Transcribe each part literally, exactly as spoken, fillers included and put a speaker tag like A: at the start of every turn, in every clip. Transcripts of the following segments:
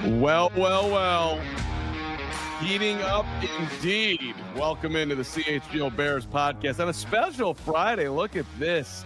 A: Well, well, well. Heating up indeed. Welcome into the C H G O Bears podcast on a special Friday. Look at this.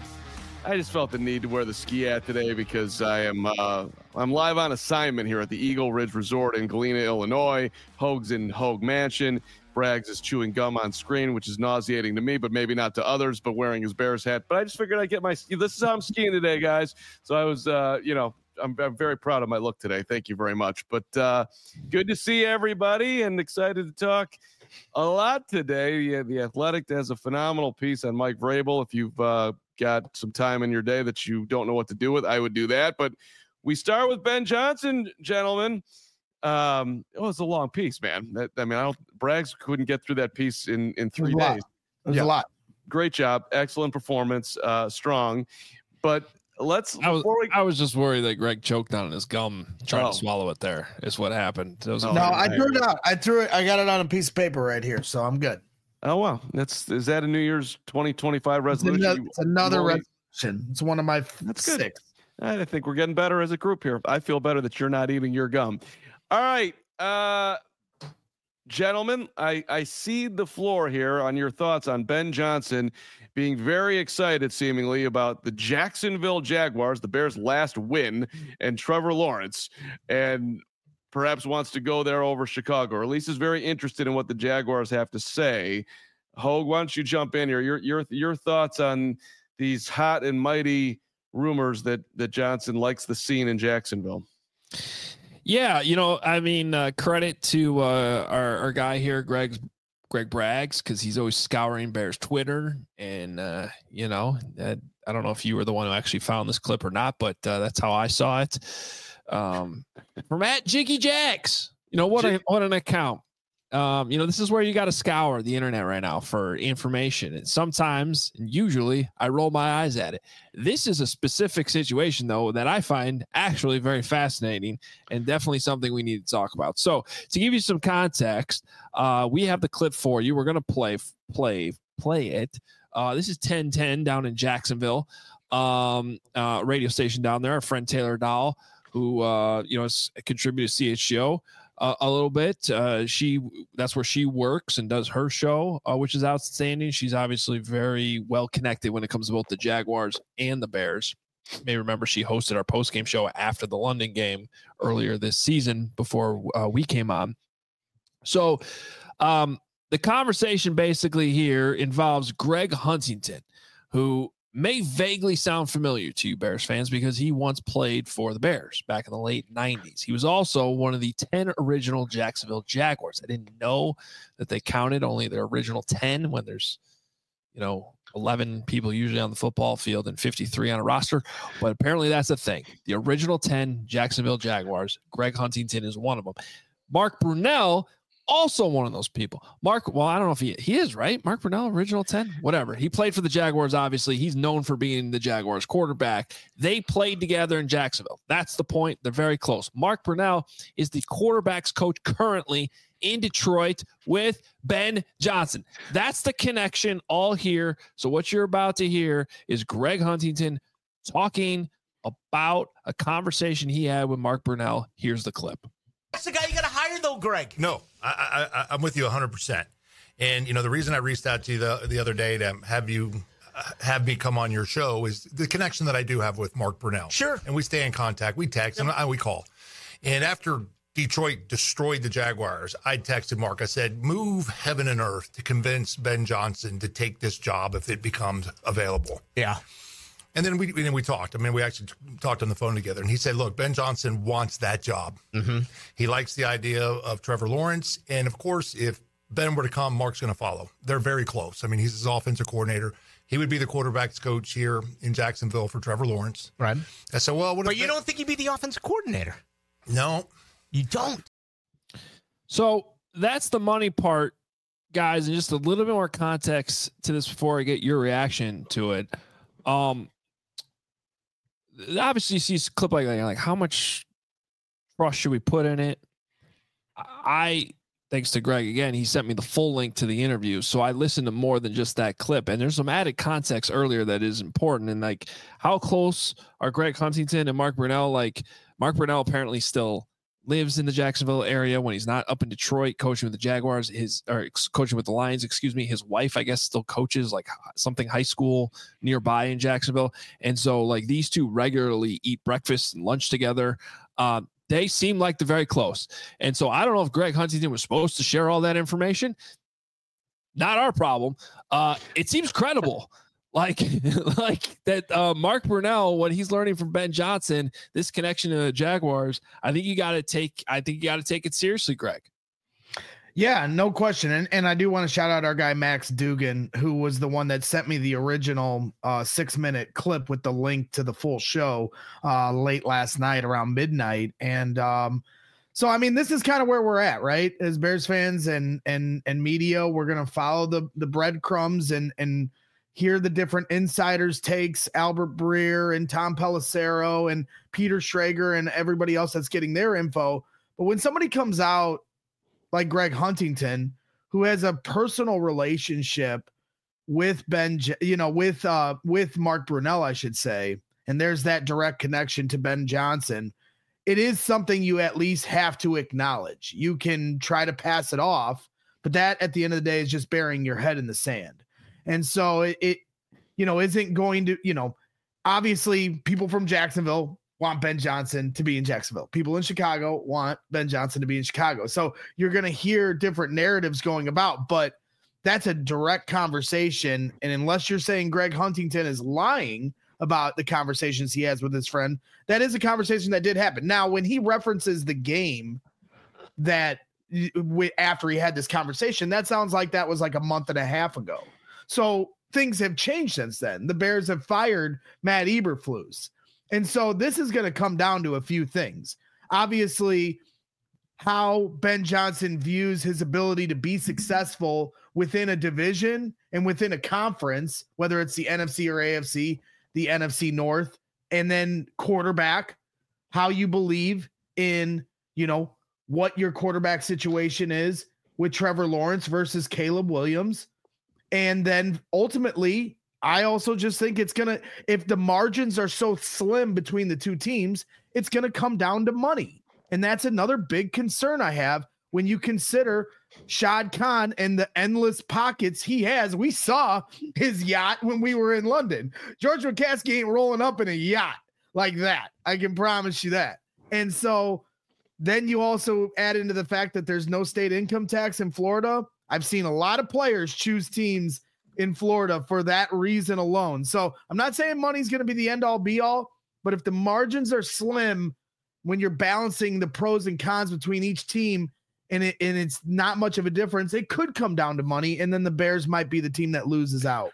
A: I just felt the need to wear the ski hat today because I am uh, I'm live on assignment here at the Eagle Ridge Resort in Galena, Illinois. Hoag's in Hoag Mansion. Braggs is chewing gum on screen, which is nauseating to me, but maybe not to others, but wearing his Bears hat. But I just figured I'd get my ski. This is how I'm skiing today, guys. So I was, uh, you know, I'm, I'm very proud of my look today. Thank you very much. But uh, good to see everybody and excited to talk a lot today. Yeah, The Athletic has a phenomenal piece on Mike Vrabel. If you've uh, got some time in your day that you don't know what to do with, I would do that. But we start with Ben Johnson, gentlemen. Um, it was a long piece, man. That, I mean, I don't, Braggs couldn't get through that piece in, in three
B: it
A: days.
B: It was
A: yeah.
B: a lot.
A: Great job. Excellent performance. Uh, strong. But let's,
C: I was,
A: we,
C: I was just worried that Greg choked on his gum trying
A: oh.
C: to swallow it there is what happened. It was
A: oh,
B: no, I threw it out. I threw it. I got it on a piece of paper right here. So I'm good.
A: Oh, wow. That's, is that a New Year's twenty twenty-five resolution?
B: It's another, it's another resolution. It's one of my
A: That's
B: six.
A: good. I think we're getting better as a group here. I feel better that you're not eating your gum. All right. Uh, gentlemen, I, I cede the floor here on your thoughts on Ben Johnson being very excited, seemingly, about the Jacksonville Jaguars, the Bears' last win, and Trevor Lawrence, and perhaps wants to go there over Chicago, or at least is very interested in what the Jaguars have to say. Hoag, why don't you jump in here? Your your your thoughts on these hot and mighty rumors that that Johnson likes the scene in Jacksonville?
C: Yeah, you know, I mean, uh, credit to uh, our, our guy here, Greg Greg Braggs, because he's always scouring Bears Twitter. And, uh, you know, uh, I don't know if you were the one who actually found this clip or not, but uh, that's how I saw it. Um, from at Jiggy Jacks. You know, what, a, what an account. Um, you know, this is where you got to scour the internet right now for information. And sometimes, and usually, I roll my eyes at it. This is a specific situation, though, that I find actually very fascinating and definitely something we need to talk about. So, to give you some context, uh, we have the clip for you. We're going to play, play, play it. Uh, this is ten ten down in Jacksonville, um, uh, radio station down there. Our friend Taylor Dahl, who uh, you know, has contributed to C H G O. Uh, a little bit. Uh, she that's where she works and does her show, uh, which is outstanding. She's obviously very well connected when it comes to both the Jaguars and the Bears. You may remember she hosted our post-game show after the London game earlier this season before uh, we came on. So um, the conversation basically here involves Greg Huntington, who may vaguely sound familiar to you Bears fans because he once played for the Bears back in the late nineties. He was also one of the ten original Jacksonville Jaguars. I didn't know that they counted only their original ten when there's, you know, eleven people usually on the football field and fifty-three on a roster, but apparently that's a thing. The original ten Jacksonville Jaguars, Greg Huntington is one of them. Mark Brunell, also one of those people. Mark, well, I don't know if he he is, right? Mark Brunell, original ten, whatever. He played for the Jaguars, obviously. He's known for being the Jaguars quarterback. They played together in Jacksonville. That's the point. They're very close. Mark Brunell is the quarterback's coach currently in Detroit with Ben Johnson. That's the connection all here. So what you're about to hear is Greg Huntington talking about a conversation he had with Mark Brunell. Here's the clip.
D: That's the guy you got to hire, though, Greg.
E: No, I, I, I'm with you one hundred percent. And, you know, the reason I reached out to you the, the other day to have you uh, have me come on your show is the connection that I do have with Mark Brunell.
D: Sure.
E: And we stay in contact. We text yep. and I, we call. And after Detroit destroyed the Jaguars, I texted Mark. I said, move heaven and earth to convince Ben Johnson to take this job if it becomes available.
D: Yeah.
E: And then we and then we talked. I mean, we actually talked on the phone together. And he said, look, Ben Johnson wants that job.
D: Mm-hmm.
E: He likes the idea of Trevor Lawrence. And, of course, if Ben were to come, Mark's going to follow. They're very close. I mean, he's his offensive coordinator. He would be the quarterback's coach here in Jacksonville for Trevor Lawrence.
D: Right.
E: I said, well, what
D: But
E: if
D: you
E: Ben-
D: don't think he'd be the offensive coordinator?
E: No.
D: You don't.
C: So that's the money part, guys. And just a little bit more context to this before I get your reaction to it. Um, obviously, you see a clip like that, you're like, how much trust should we put in it? I, thanks to Greg, again, he sent me the full link to the interview. So I listened to more than just that clip. And there's some added context earlier that is important. And like, how close are Greg Huntington and Mark Brunell? Like, Mark Brunell apparently still lives in the Jacksonville area, when he's not up in Detroit coaching with the Jaguars, his or coaching with the Lions, excuse me, his wife, I guess, still coaches like something high school nearby in Jacksonville. And so like these two regularly eat breakfast and lunch together. Um, they seem like they're very close. And so I don't know if Greg Huntington was supposed to share all that information. Not our problem. Uh, it seems credible. Like, like that uh, Mark Brunell, what he's learning from Ben Johnson, this connection to the Jaguars, I think you got to take, I think you got to take it seriously, Greg.
B: Yeah, no question. And and I do want to shout out our guy, Max Dugan, who was the one that sent me the original uh, six minute clip with the link to the full show uh, late last night around midnight. And um, so, I mean, this is kind of where we're at, right? As Bears fans and, and, and media, we're going to follow the, the breadcrumbs and, and, hear the different insiders takes, Albert Breer and Tom Pelissero and Peter Schrager and everybody else that's getting their info. But when somebody comes out like Greg Huntington, who has a personal relationship with Ben, you know, with, uh, with Mark Brunell, I should say, and there's that direct connection to Ben Johnson, it is something you at least have to acknowledge. You can try to pass it off, but that at the end of the day is just burying your head in the sand. And so it, it, you know, isn't going to, you know, obviously people from Jacksonville want Ben Johnson to be in Jacksonville. People in Chicago want Ben Johnson to be in Chicago. So you're going to hear different narratives going about, but that's a direct conversation. And unless you're saying Greg Huntington is lying about the conversations he has with his friend, that is a conversation that did happen. Now, when he references the game that after he had this conversation, that sounds like that was like a month and a half ago. So things have changed since then. The Bears have fired Matt Eberflus. And so this is going to come down to a few things. Obviously, how Ben Johnson views his ability to be successful within a division and within a conference, whether it's the N F C or A F C, the N F C North, and then quarterback, how you believe in, you know, what your quarterback situation is with Trevor Lawrence versus Caleb Williams. And then ultimately, I also just think it's going to, if the margins are so slim between the two teams, it's going to come down to money. And that's another big concern I have when you consider Shad Khan and the endless pockets he has. We saw his yacht when we were in London. George McCaskey ain't rolling up in a yacht like that. I can promise you that. And so then you also add into the fact that there's no state income tax in Florida. I've seen a lot of players choose teams in Florida for that reason alone. So I'm not saying money's going to be the end all be all, but if the margins are slim when you're balancing the pros and cons between each team and it, and it's not much of a difference, it could come down to money. And then the Bears might be the team that loses out.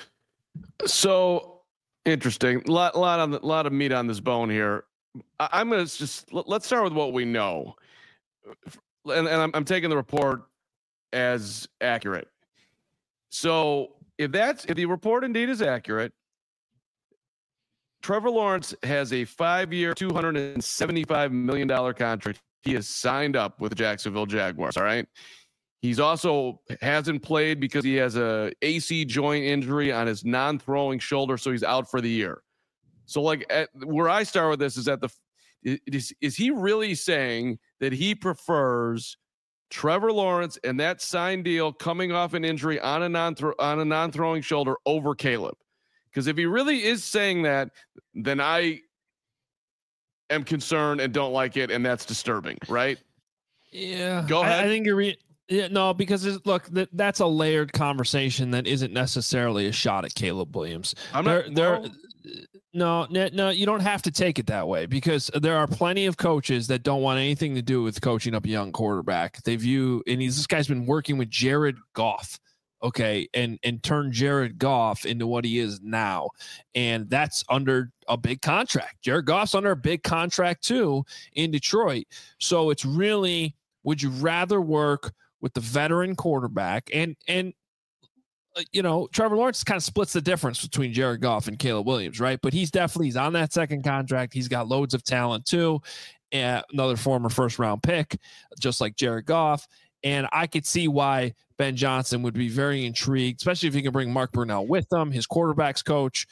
A: So interesting. A lot, lot on the lot of meat on this bone here. I, I'm going to just, let, let's start with what we know. And, and I'm, I'm taking the report as accurate. So if that's if the report indeed is accurate, Trevor Lawrence has a five-year, two hundred seventy-five million dollars contract. He has signed up with the Jacksonville Jaguars. All right. He's also hasn't played because he has a A C joint injury on his non-throwing shoulder, so he's out for the year. So, like, at, where I start with this is at the is is he really saying that he prefers Trevor Lawrence and that sign deal coming off an injury on a non on a non-throwing shoulder over Caleb? Because if he really is saying that, then I am concerned and don't like it, and that's disturbing, right?
C: Yeah,
A: go ahead.
C: I, I think you're. Re- yeah, no, because it's, look, that that's a layered conversation that isn't necessarily a shot at Caleb Williams.
A: I'm not.
C: There, there, no, no, no, you don't have to take it that way, because there are plenty of coaches that don't want anything to do with coaching up a young quarterback. They view, and he's this guy's been working with Jared Goff. Okay, and and turn Jared Goff into what he is now, and that's under a big contract. Jared Goff's under a big contract too in Detroit. So it's really, would you rather work with the veteran quarterback? And and uh, you know, Trevor Lawrence kind of splits the difference between Jared Goff and Caleb Williams, right? But he's definitely he's on that second contract. He's got loads of talent too, and another former first round pick, just like Jared Goff. And I could see why Ben Johnson would be very intrigued, especially if he can bring Mark Brunell with him, his quarterback's coach.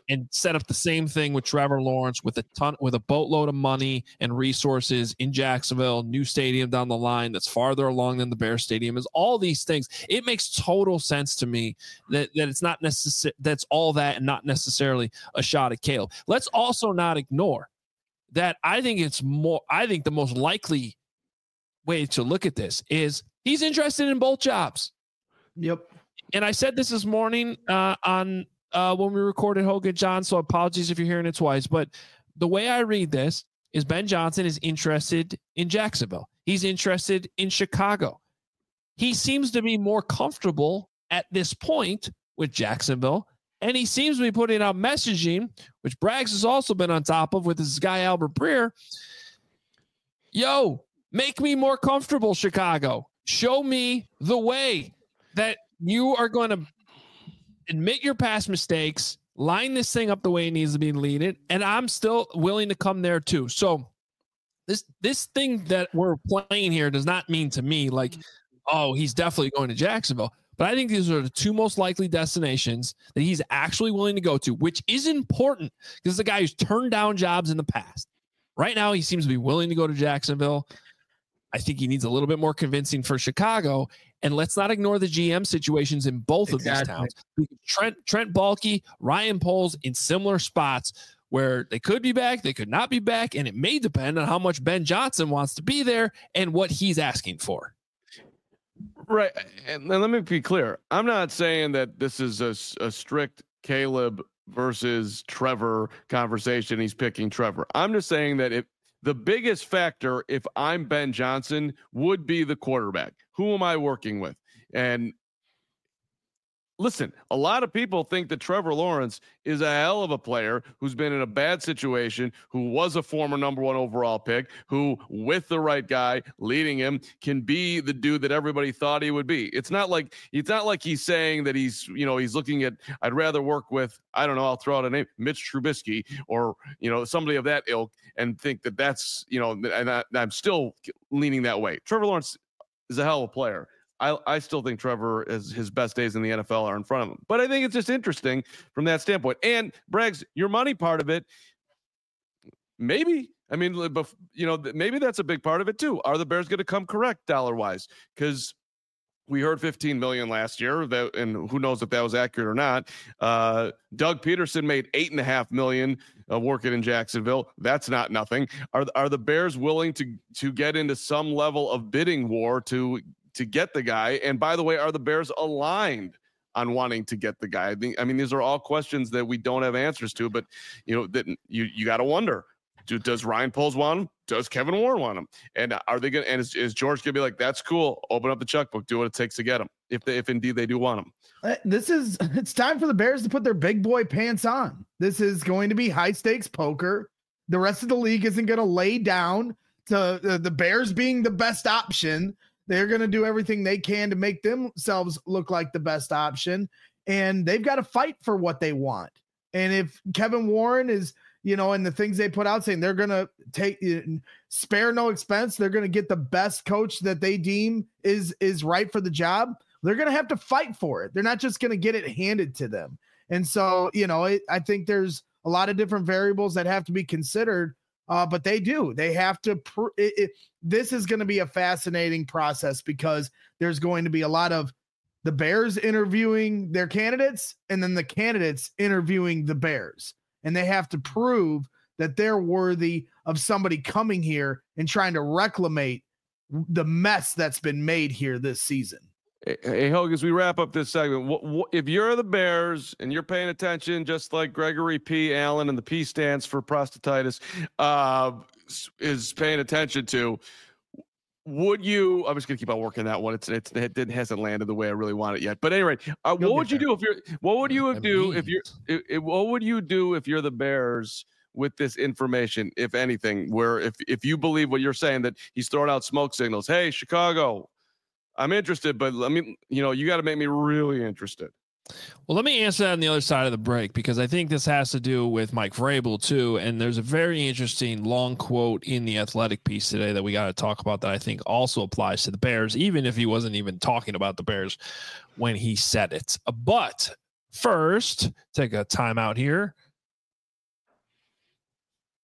C: and set up the same thing with Trevor Lawrence with a ton, with a boatload of money and resources in Jacksonville, new stadium down the line that's farther along than the Bears stadium is. All these things. It makes total sense to me that, that it's not necessary. That's all that and not necessarily a shot at Caleb. Let's also not ignore that. I think it's more, I think the most likely way to look at this is he's interested in both jobs.
B: Yep.
C: And I said this this morning uh, on, Uh, when we recorded Hogan John, so apologies if you're hearing it twice. But the way I read this is Ben Johnson is interested in Jacksonville. He's interested in Chicago. He seems to be more comfortable at this point with Jacksonville, and he seems to be putting out messaging, which Braggs has also been on top of with this guy Albert Breer. Yo, make me more comfortable, Chicago. Show me the way that you are going to admit your past mistakes, line this thing up the way it needs to be leaded, and I'm still willing to come there too. So this this thing that we're playing here does not mean to me like, oh, he's definitely going to Jacksonville. But I think these are the two most likely destinations that he's actually willing to go to, which is important because the guy who's turned down jobs in the past. Right now, he seems to be willing to go to Jacksonville. I think he needs a little bit more convincing for Chicago. And let's not ignore the G M situations in both exactly. of these towns. Trent, Trent Baalke, Ryan Poles in similar spots where they could be back, they could not be back, and it may depend on how much Ben Johnson wants to be there and what he's asking for.
A: Right. And let me be clear. I'm not saying that this is a, a strict Caleb versus Trevor conversation. He's picking Trevor. I'm just saying that if the biggest factor, if I'm Ben Johnson, would be the quarterback. Who am I working with? And listen, a lot of people think that Trevor Lawrence is a hell of a player who's been in a bad situation, who was a former number one overall pick, who with the right guy leading him can be the dude that everybody thought he would be. It's not like, it's not like he's saying that he's, you know, he's looking at, I'd rather work with, I don't know, I'll throw out a name, Mitch Trubisky or, you know, somebody of that ilk and think that that's, you know, and I, I'm still leaning that way. Trevor Lawrence is a hell of a player. I, I still think Trevor is his best days in the N F L are in front of him, but I think it's just interesting from that standpoint. And Braggs, your money part of it, maybe, I mean, you know, maybe that's a big part of it too. Are the Bears going to come correct dollar wise? Because we heard fifteen million last year, that, and who knows if that was accurate or not. Uh, Doug Peterson made eight and a half million uh, working in Jacksonville. That's not nothing. Are are the Bears willing to to get into some level of bidding war to to get the guy? And by the way, are the Bears aligned on wanting to get the guy? I think, I mean, these are all questions that we don't have answers to, but you know, that you, you got to wonder, do, does Ryan Poles want him? Does Kevin Warren want him? And are they going to, and is, is George going to be like, that's cool. Open up the checkbook, do what it takes to get him. If they, if indeed they do want him.
B: Uh, this is, it's time for the Bears to put their big boy pants on. This is going to be high stakes poker. The rest of the league isn't going to lay down to uh, the Bears being the best option. They're going to do everything they can to make themselves look like the best option, and they've got to fight for what they want. And if Kevin Warren is, you know, and the things they put out saying they're going to take spare no expense, they're going to get the best coach that they deem is, is right for the job. They're going to have to fight for it. They're not just going to get it handed to them. And so, you know, it, I think there's a lot of different variables that have to be considered. Uh, but they do. They have to. Pr- it, it, this is going to be a fascinating process because there's going to be a lot of the Bears interviewing their candidates and then the candidates interviewing the Bears. And they have to prove that they're worthy of somebody coming here and trying to reclamate the mess that's been made here this season.
A: Hey, Hogan, as we wrap up this segment, what, what, if you're the Bears and you're paying attention, just like Gregory P. Allen, and the P stands for prostatitis, uh, is paying attention to, would you? I'm just gonna keep on working that one. It's, it's it didn't hasn't landed the way I really want it yet. But anyway, uh, what would you do if you're? What would you do if you're? If, if, what would you do if you're the Bears with this information, if anything? Where if if you believe what you're saying, that he's throwing out smoke signals. Hey, Chicago, I'm interested, but let me, you know, you got to make me really interested.
C: Well, let me answer that on the other side of the break, because I think this has to do with Mike Vrabel too. And there's a very interesting long quote in the Athletic piece today that we got to talk about that I think also applies to the Bears, even if he wasn't even talking about the Bears when he said it. But first, take a timeout here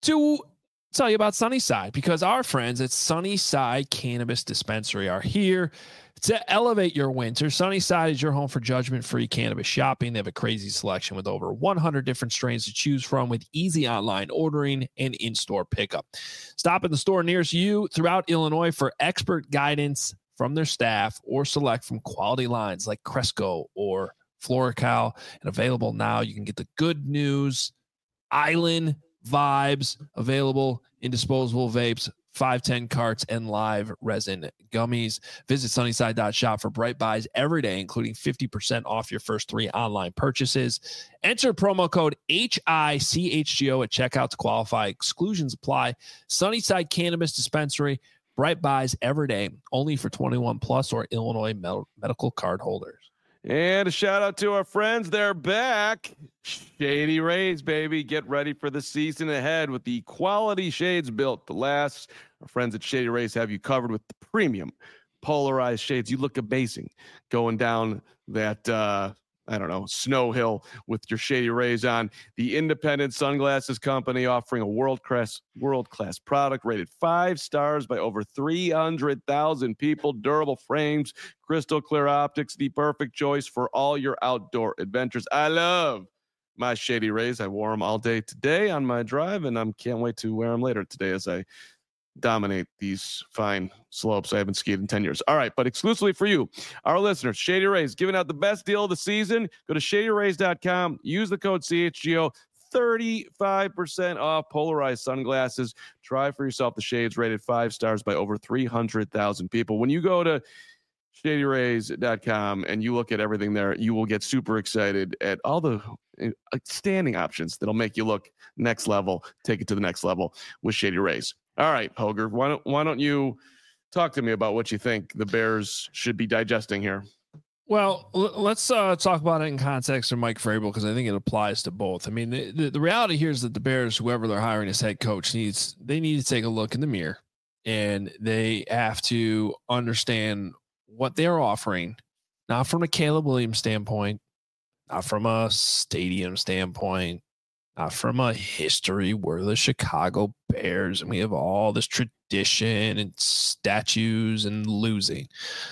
C: to tell you about Sunnyside, because our friends at Sunnyside Cannabis Dispensary are here to elevate your winter. Sunnyside is your home for judgment-free cannabis shopping. They have a crazy selection with over one hundred different strains to choose from, with easy online ordering and in-store pickup. Stop at the store nearest you throughout Illinois for expert guidance from their staff, or select from quality lines like Cresco or Florical. And available now, you can get the Good News Island Vibes available in disposable vapes, five ten carts, and live resin gummies. Visit sunnyside dot shop for Bright Buys every day, including fifty percent off your first three online purchases. Enter promo code H I C H G O at checkout to qualify. Exclusions apply. Sunnyside Cannabis Dispensary, Bright Buys every day, only for twenty-one plus or Illinois med- medical card holders.
A: And a shout out to our friends. They're back. Shady Rays, baby. Get ready for the season ahead with the quality shades built to last. Our friends at Shady Rays have you covered with the premium polarized shades. You look amazing going down that, uh, I don't know, snow hill with your Shady Rays on. The independent sunglasses company offering a world-class world-class product rated five stars by over three hundred thousand people. Durable frames, crystal clear optics, the perfect choice for all your outdoor adventures. I love my Shady Rays. I wore them all day today on my drive, and I can't wait to wear them later today as I dominate these fine slopes. I haven't skied in ten years. All right, but exclusively for you, our listeners, Shady Rays giving out the best deal of the season. Go to shady rays dot com. Use the code C H G O. thirty-five percent off polarized sunglasses. Try for yourself the shades rated five stars by over three hundred thousand people. When you go to shady rays dot com and you look at everything there, you will get super excited at all the standing options that'll make you look next level. Take it to the next level with Shady Rays. All right, Hoger, why don't why don't you talk to me about what you think the Bears should be digesting here?
C: Well, l- let's uh, talk about it in context of Mike Vrabel, because I think it applies to both. I mean, the, the, the reality here is that the Bears, whoever they're hiring as head coach, needs they need to take a look in the mirror, and they have to understand what they're offering, not from a Caleb Williams standpoint, not from a stadium standpoint, not from a history. We're the Chicago Bears, and we have all this tradition and statues and losing.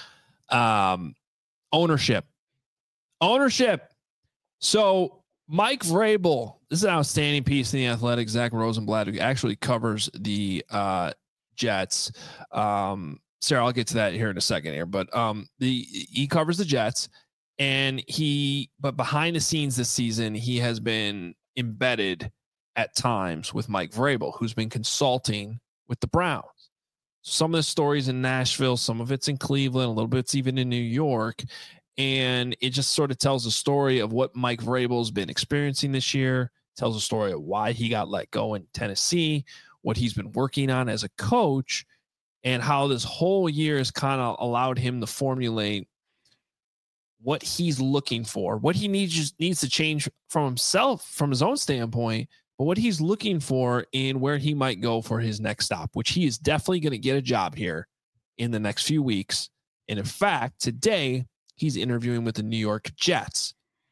C: Um, ownership. Ownership. So Mike Vrabel, this is an outstanding piece in The Athletic. Zach Rosenblatt, who actually covers the uh, Jets. Um, Sarah, I'll get to that here in a second here, but um, the he covers the Jets, and he, but behind the scenes this season, he has been embedded at times with Mike Vrabel, who's been consulting with the Browns. Some of the stories in Nashville, some of it's in Cleveland, a little bit's even in New York. And it just sort of tells a story of what Mike Vrabel's been experiencing this year, tells a story of why he got let go in Tennessee, what he's been working on as a coach, and how this whole year has kind of allowed him to formulate what he's looking for, what he needs just needs to change from himself, from his own standpoint, but what he's looking for in where he might go for his next stop, which he is definitely going to get a job here in the next few weeks. And in fact, today he's interviewing with the New York Jets.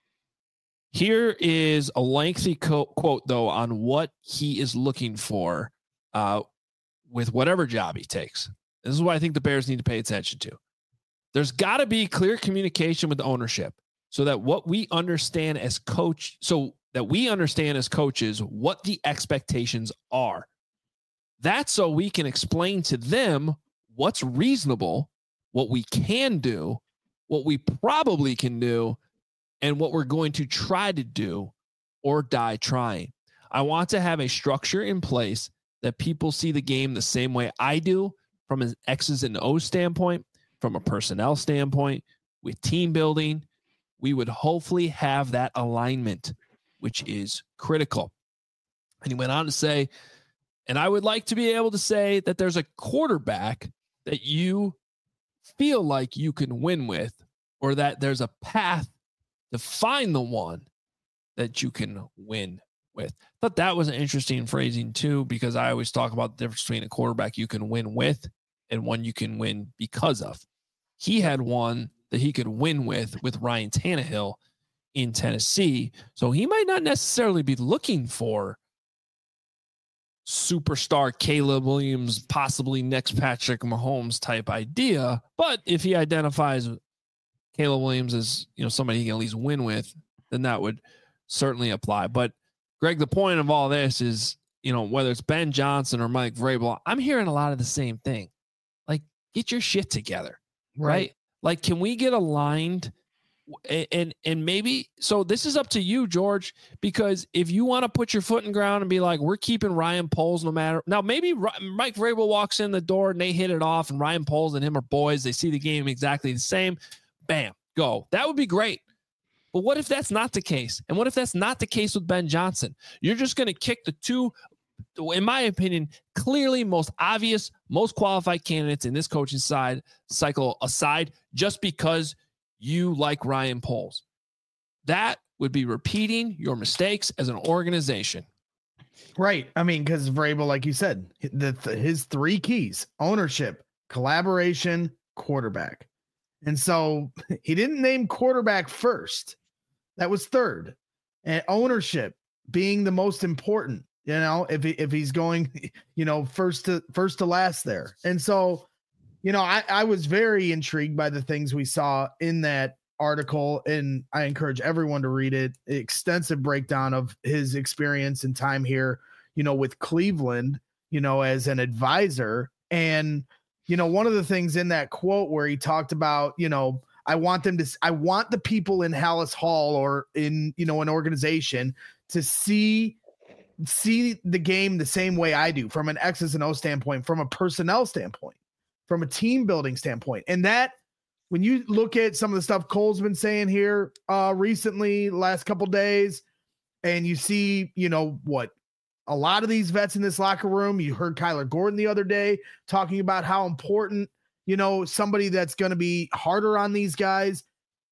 C: Here is a lengthy co- quote, though, on what he is looking for uh, with whatever job he takes. This is what I think the Bears need to pay attention to. There's got to be clear communication with the ownership so that what we understand as coach, so that we understand as coaches what the expectations are. That's so we can explain to them what's reasonable, what we can do, what we probably can do, and what we're going to try to do or die trying. I want to have a structure in place that people see the game the same way I do, from an X's and O's standpoint, from a personnel standpoint, with team building. We would hopefully have that alignment, which is critical. And he went on to say, and I would like to be able to say that there's a quarterback that you feel like you can win with, or that there's a path to find the one that you can win with. I thought that was an interesting phrasing too, because I always talk about the difference between a quarterback you can win with and one you can win because of. He had one that he could win with with Ryan Tannehill in Tennessee. So he might not necessarily be looking for superstar Caleb Williams, possibly next Patrick Mahomes type idea. But if he identifies Caleb Williams as, you know, somebody he can at least win with, then that would certainly apply. But Greg, the point of all this is, you know, whether it's Ben Johnson or Mike Vrabel, I'm hearing a lot of the same thing. Like, get your shit together, right? right? Like, can we get aligned? And and maybe, so this is up to you, George, because if you want to put your foot in the ground and be like, we're keeping Ryan Poles no matter. Now, maybe Mike Vrabel walks in the door and they hit it off, and Ryan Poles and him are boys. They see the game exactly the same. Bam, go. That would be great. But what if that's not the case? And what if that's not the case with Ben Johnson? You're just going to kick the two, in my opinion, clearly most obvious, most qualified candidates in this coaching side cycle aside, just because you like Ryan Poles. That would be repeating your mistakes as an organization.
B: Right. I mean, because Vrabel, like you said, the, the, his three keys: ownership, collaboration, quarterback. And so he didn't name quarterback first. That was third. And ownership being the most important, you know, if he, if he's going, you know, first to first to last there. And so, you know, I, I was very intrigued by the things we saw in that article, and I encourage everyone to read it. Extensive breakdown of his experience and time here, you know, with Cleveland, you know, as an advisor. And, you know, one of the things in that quote where he talked about, you know, I want them to, I want the people in Hallis Hall or in, you know, an organization to see, see the game the same way I do, from an X's and O standpoint, from a personnel standpoint, from a team building standpoint. And that, when you look at some of the stuff Cole's been saying here uh, recently, last couple days, and you see, you know, what a lot of these vets in this locker room, you heard Kyler Gordon the other day talking about how important, you know, somebody that's going to be harder on these guys.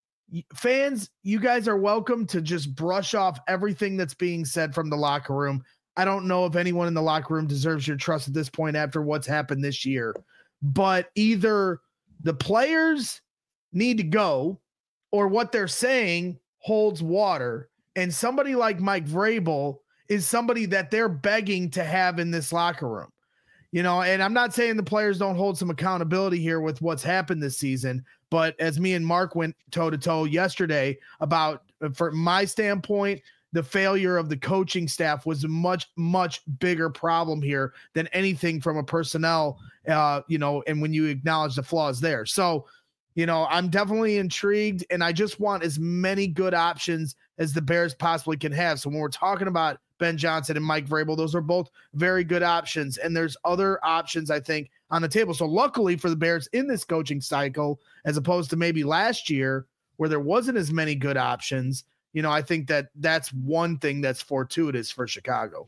B: Fans, you guys are welcome to just brush off everything that's being said from the locker room. I don't know if anyone in the locker room deserves your trust at this point after what's happened this year, but either the players need to go or what they're saying holds water. And somebody like Mike Vrabel is somebody that they're begging to have in this locker room, you know, and I'm not saying the players don't hold some accountability here with what's happened this season, but as me and Mark went toe to toe yesterday about, from my standpoint, the failure of the coaching staff was a much, much bigger problem here than anything from a personnel, uh, you know, and when you acknowledge the flaws there. So, you know, I'm definitely intrigued, and I just want as many good options as the Bears possibly can have. So when we're talking about Ben Johnson and Mike Vrabel, those are both very good options, and there's other options, I think, on the table. So luckily for the Bears in this coaching cycle, as opposed to maybe last year where there wasn't as many good options, you know, I think that that's one thing that's fortuitous for Chicago.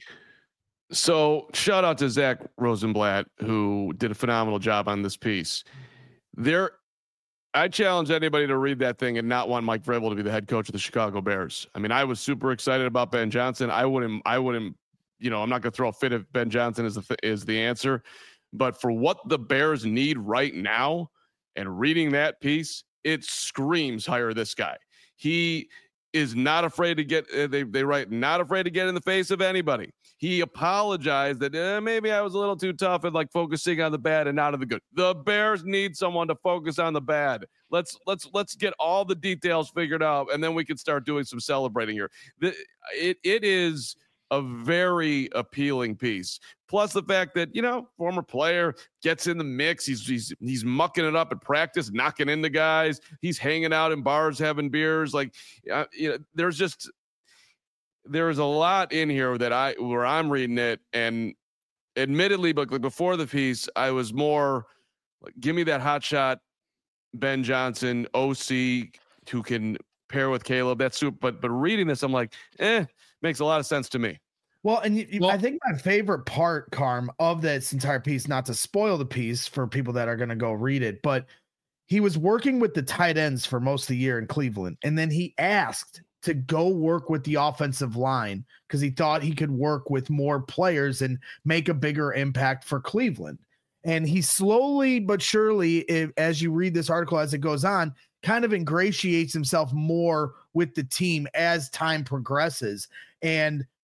A: So shout out to Zach Rosenblatt, who did a phenomenal job on this piece. There, I challenge anybody to read that thing and not want Mike Vrabel to be the head coach of the Chicago Bears. I mean, I was super excited about Ben Johnson. I wouldn't, I wouldn't, you know, I'm not going to throw a fit if Ben Johnson is the, is the answer, but for what the Bears need right now, and reading that piece, it screams hire this guy. He is not afraid to get, uh, they, they write, not afraid to get in the face of anybody. He apologized that eh, maybe I was a little too tough and like focusing on the bad and not on the good. The Bears need someone to focus on the bad. Let's let's let's get all the details figured out, and then we can start doing some celebrating here. The, it it is a very appealing piece. Plus the fact that, you know, former player gets in the mix. He's he's he's mucking it up at practice, knocking into guys. He's hanging out in bars, having beers. Like, uh, you know, there's just. There's a lot in here that I, where I'm reading it, and admittedly, but like before the piece, I was more like, give me that hot shot, Ben Johnson, O C, who can pair with Caleb. That's super. But, but reading this, I'm like, eh, makes a lot of sense to me.
B: Well, and you,
C: well,
B: I think my favorite part, Carm, of this entire piece, not to spoil the piece for people that are going to go read it, but he was working with the tight ends for most of the year in Cleveland. And then he asked to go work with the offensive line because he thought he could work with more players and make a bigger impact for Cleveland. And he slowly but surely, if, as you read this article as it goes on, kind of ingratiates himself more with the team as time progresses. And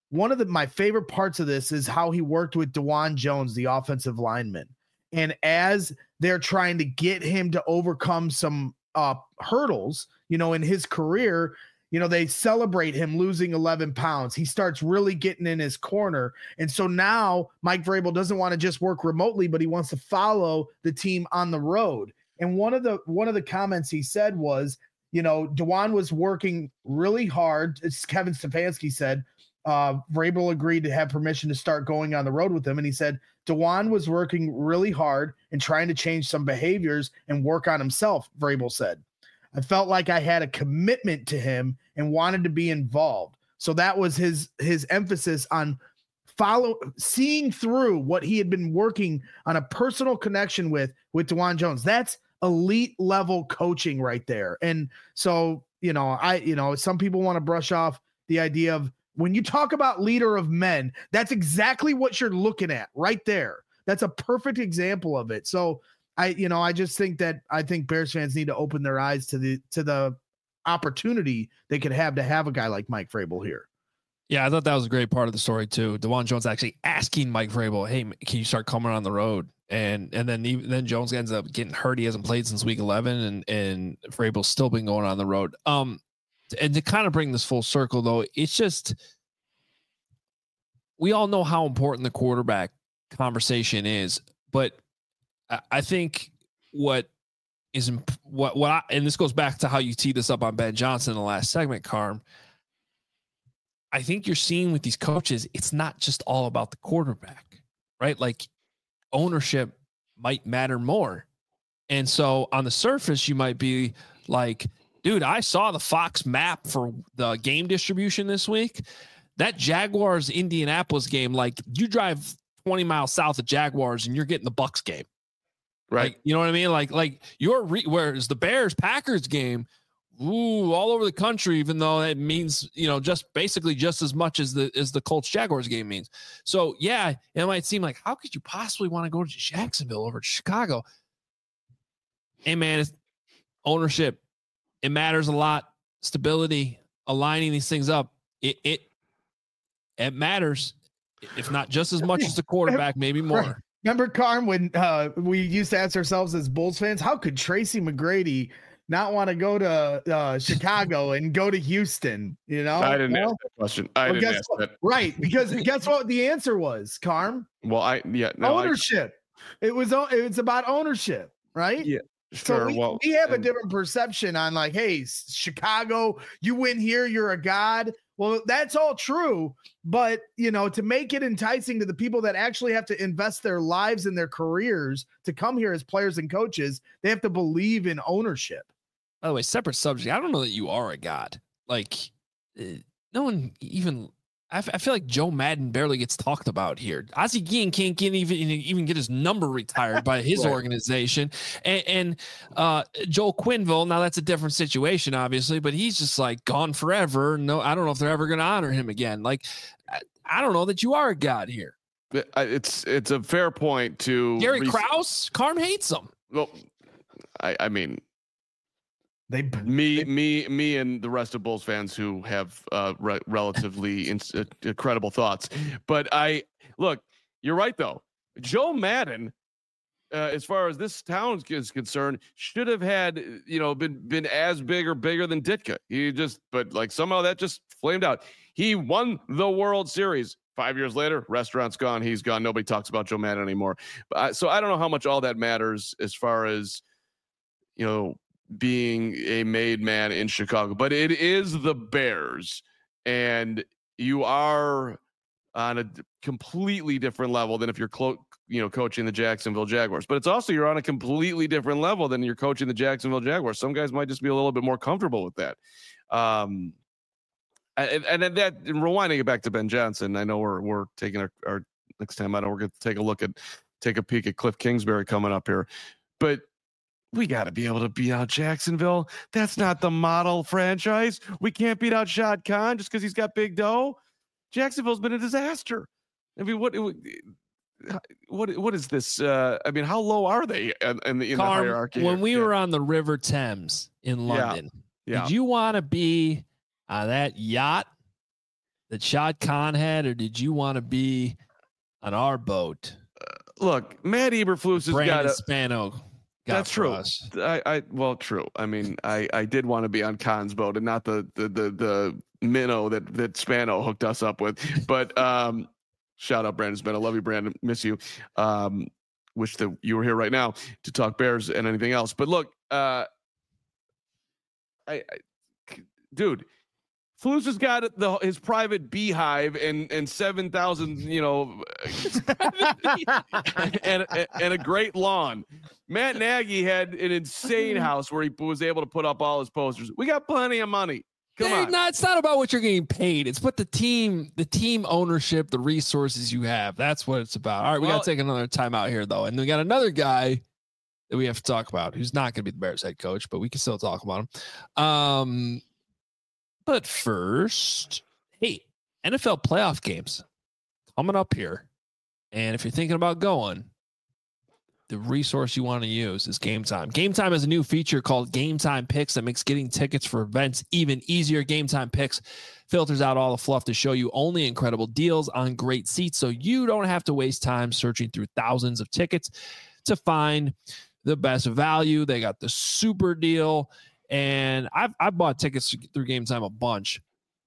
B: one of the my favorite parts of this is how he worked with DeJuan Jones, the offensive lineman. And as they're trying to get him to overcome some uh, hurdles, you know, in his career, you know, they celebrate him losing eleven pounds. He starts really getting in his corner. And so now Mike Vrabel doesn't want to just work remotely, but he wants to follow the team on the road. And one of the one of the comments he said was, you know, DeJuan was working really hard. It's Kevin Stefanski said, uh, Vrabel agreed to have permission to start going on the road with him. And he said, DeJuan was working really hard and trying to change some behaviors and work on himself, Vrabel said. I felt like I had a commitment to him and wanted to be involved. So that was his his emphasis on follow seeing through what he had been working on a personal connection with with DeJuan Jones. That's elite level coaching right there. And so, you know, I, you know, some people want to brush off the idea of when you talk about leader of men, that's exactly what you're looking at right there. That's a perfect example of it. So I, you know, I just think that I think Bears fans need to open their eyes to the, to the opportunity they could have to have a guy like Mike Vrabel here.
C: Yeah, I thought that was a great part of the story too. DeJuan Jones actually asking Mike Vrabel, "Hey, can you start coming on the road?" And and then even, then Jones ends up getting hurt. He hasn't played since week eleven, and and Vrabel's still been going on the road. Um, and to kind of bring this full circle, though, it's just we all know how important the quarterback conversation is, but I, I think what is imp- what what I, and this goes back to how you teed this up on Ben Johnson in the last segment, Carm. I think you're seeing with these coaches, it's not just all about the quarterback, right? Like ownership might matter more. And so on the surface, you might be like, dude, I saw the Fox map for the game distribution this week. That Jaguars Indianapolis game, like you drive twenty miles south of Jaguars and you're getting the Bucks game. Right. Like, you know what I mean? Like, like your re- whereas the Bears Packers game, ooh, all over the country, even though it means, you know, just basically just as much as the as the Colts Jaguars game means. So yeah, it might seem like, how could you possibly want to go to Jacksonville over to Chicago? Hey man, it's ownership. It matters a lot. Stability, aligning these things up. It it it matters, if not just as much as the quarterback, maybe more.
B: Remember, Carm, when uh, we used to ask ourselves as Bulls fans, how could Tracy McGrady not want to go to uh, Chicago and go to Houston? You know,
A: I didn't
B: well,
A: ask that question. I
B: well,
A: didn't ask
B: what,
A: that.
B: Right, because guess what the answer was, Carm?
A: Well, I yeah, no,
B: ownership. I, it was it was about ownership, right?
A: Yeah, sure.
B: So we,
A: well,
B: we have
A: and,
B: a different perception on like, hey, Chicago, you win here, you're a god. Well, that's all true, but you know, to make it enticing to the people that actually have to invest their lives and their careers to come here as players and coaches, they have to believe in ownership.
C: By the way, separate subject. I don't know that you are a god. Like, uh, no one even. I, f- I feel like Joe Madden barely gets talked about here. Ozzie Guillen can't get even even get his number retired by his right. organization, and, and uh, Joel Quenneville. Now that's a different situation, obviously, but he's just like gone forever. No, I don't know if they're ever going to honor him again. Like, I, I don't know that you are a god here.
A: It's it's a fair point to
C: Gary re- Krause. Carm hates him.
A: Well, I, I mean.
B: They,
A: me,
B: they,
A: me, me, and the rest of Bulls fans who have uh, re- relatively in, uh, incredible thoughts. But I look, you're right though. Joe Madden, uh, as far as this town is concerned, should have had you know been been as big or bigger than Ditka. He just, but like somehow that just flamed out. He won the World Series. Five years later, restaurant's gone. He's gone. Nobody talks about Joe Madden anymore. But I, so I don't know how much all that matters as far as you know. being a made man in Chicago, but it is the Bears, and you are on a completely different level than if you're clo- you know coaching the Jacksonville Jaguars. But it's also you're on a completely different level than you're coaching the Jacksonville Jaguars. Some guys might just be a little bit more comfortable with that. Um, and, and then that and rewinding it back to Ben Johnson, I know we're we're taking our, our next time. I know we're going to take a look at take a peek at Cliff Kingsbury coming up here, but. We got to be able to beat out Jacksonville. That's not the model franchise. We can't beat out Shad Khan just because he's got big dough. Jacksonville's been a disaster. I mean, what what what is this? Uh, I mean, how low are they in, in, the, in
C: Carm,
A: the hierarchy?
C: When
A: here?
C: we
A: yeah.
C: were on the River Thames in London,
A: yeah. Yeah.
C: did you want to be on that yacht that Shad Khan had, or did you want to be on our boat?
A: Look, Matt Eberflus has
C: Brandon
A: got a
C: Spano. got
A: That's
C: for
A: true.
C: us.
A: I, I well, true. I mean, I, I did want to be on Khan's boat and not the the the the minnow that that Spano hooked us up with. But um, shout out Brandon Spano. Love you, Brandon. Miss you. Um, wish that you were here right now to talk Bears and anything else. But look, uh, I, I dude. Flus has got the, his private beehive and and seven thousand, you know, and, and and a great lawn. Matt Nagy had an insane house where he was able to put up all his posters. We got plenty of money. Come
C: Hey,
A: on.
C: no, it's not about what you're getting paid. It's what the team, the team ownership, the resources you have. That's what it's about. All right, we
A: Well-
C: got to take another time out here though, and we got another guy that we have to talk about who's not going to be the Bears head coach, but we can still talk about him. Um. But first, hey, N F L playoff games coming up here. And if you're thinking about going, the resource you want to use is Game Time. Game Time has a new feature called Game Time Picks that makes getting tickets for events even easier. Game Time Picks filters out all the fluff to show you only incredible deals on great seats, so you don't have to waste time searching through thousands of tickets to find the best value. They got the super deal. And I've I've bought tickets through Game Time a bunch,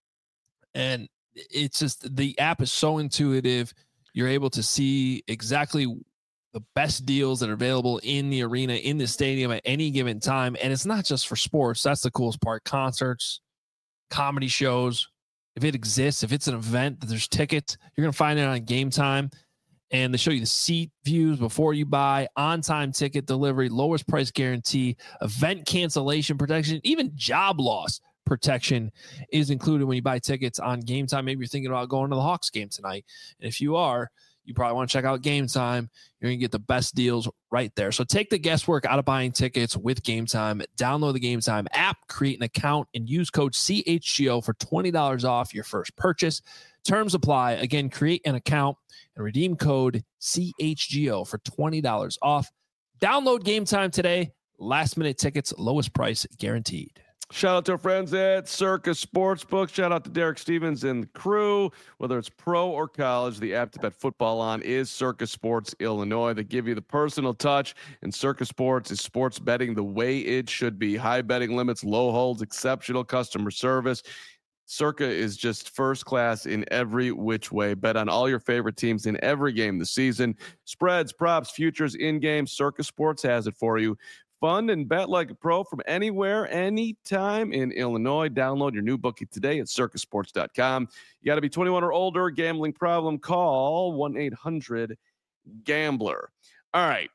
C: and it's just the app is so intuitive. You're able to see exactly the best deals that are available in the arena, in the stadium at any given time. And it's not just for sports. That's the coolest part. Concerts, comedy shows. If it exists, if it's an event that there's tickets, you're gonna find it on Game Time. And they show you the seat views before you buy, on-time ticket delivery, lowest price guarantee, event cancellation protection, even job loss protection is included when you buy tickets on Game Time. Maybe you're thinking about going to the Hawks game tonight. And if you are, you probably want to check out Game Time. You're going to get the best deals right there. So take the guesswork out of buying tickets with Game Time. Download the Game Time app, create an account, and use code C H G O for twenty dollars off your first purchase. Terms apply. Again, create an account and redeem code C H G O for twenty dollars off. Download Game Time today. Last minute tickets, lowest price guaranteed.
A: Shout out to our friends at Circa Sportsbook. Shout out to Derek Stevens and the crew. Whether it's pro or college, the app to bet football on is Circa Sports Illinois. They give you the personal touch, and Circa Sports is sports betting the way it should be. High betting limits, low holds, exceptional customer service. Circa is just first class in every which way. Bet on all your favorite teams in every game this season. Spreads, props, futures, in-game. Circa Sports has it for you. Fun and bet like a pro from anywhere, anytime in Illinois. Download your new bookie today at circa sports dot com. You got to be twenty-one or older. Gambling problem, call one eight hundred gambler. All right.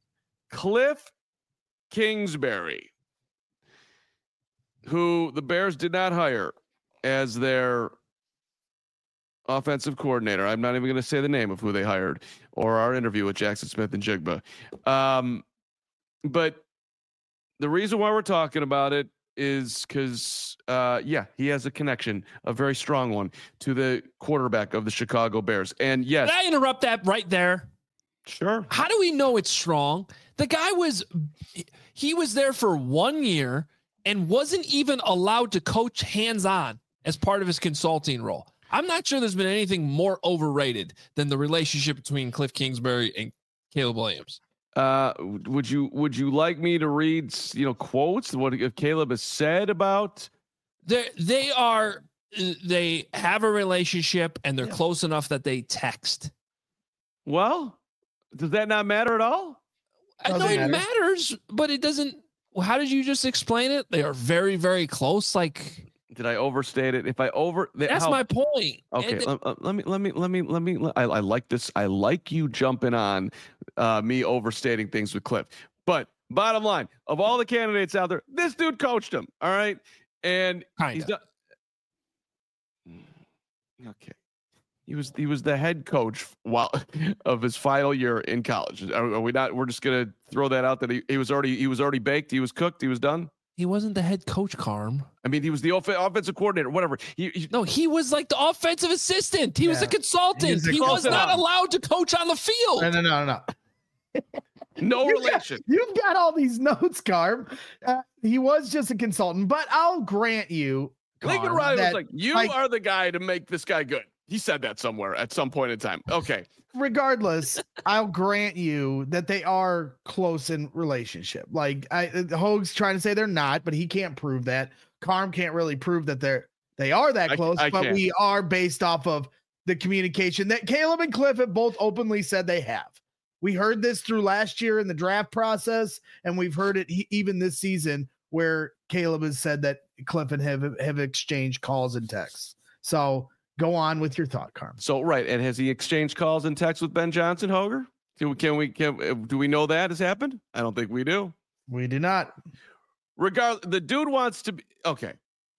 A: Cliff Kingsbury, who the Bears did not hire as their offensive coordinator. I'm not even going to say the name of who they hired or our interview with Jackson Smith and Jigba. Um, but the reason why we're talking about it is because, uh, yeah, he has a connection, a very strong one, to the quarterback of the Chicago Bears. And yes,
C: Can I interrupt that right there?
A: sure.
C: How do we know it's strong? The guy was, he was there for one year and wasn't even allowed to coach hands-on as part of his consulting role. I'm not sure there's been anything more overrated than the relationship between Cliff Kingsbury and Caleb Williams.
A: Uh, would you would you like me to read, you know, quotes what Caleb has said about?
C: They they are they have a relationship and they're yeah. close enough that they text.
A: Well, does that not matter at all?
C: I know it matters, but it doesn't. How did you just explain it? They are very very close. Like.
A: Did I overstate it? If I over,
C: that's
A: how,
C: my point.
A: Okay, let, uh, let me let me let me let me. I, I like this. I like you jumping on uh, me overstating things with Cliff. But bottom line, of all the candidates out there, this dude coached him. All right, and
C: Kinda.
A: he's done. Okay, he was he was the head coach while of his final year in college. Are, are we not? We're just gonna throw that out that he, he was already he was already baked. He was cooked. He was done.
C: He wasn't the head coach, Carm.
A: I mean, he was the off- offensive coordinator, whatever. He, he,
C: no, he was like the offensive assistant. He yeah. was a consultant. He, he was not on. allowed to coach on the field.
B: No, no, no, no.
A: No
B: you
A: relation.
B: Got, you've got all these notes, Carm. Uh, he was just a consultant, but I'll grant you,
A: Lincoln
B: Carm,
A: Riley was
B: that,
A: like, you
B: like-
A: are the guy to make this guy good. He said that somewhere at some point in time. Okay.
B: regardless, I'll grant you that they are close in relationship. Like I, Hoag's trying to say they're not, but he can't prove that. Carm can't really prove that they're they are that
A: I-
B: close.
A: I
B: but
A: can't.
B: we are based off of the communication that Caleb and Cliff have both openly said they have. We heard this through last year in the draft process, and we've heard it he, even this season where Caleb has said that Cliff and have have exchanged calls and texts. So. Go on with your thought, Carm.
A: So, right. And has he exchanged calls and texts with Ben Johnson, Hoger? Can we, can we, can, do we know that has happened? I don't think we do.
B: We do not.
A: Regardless, the dude wants to be, okay.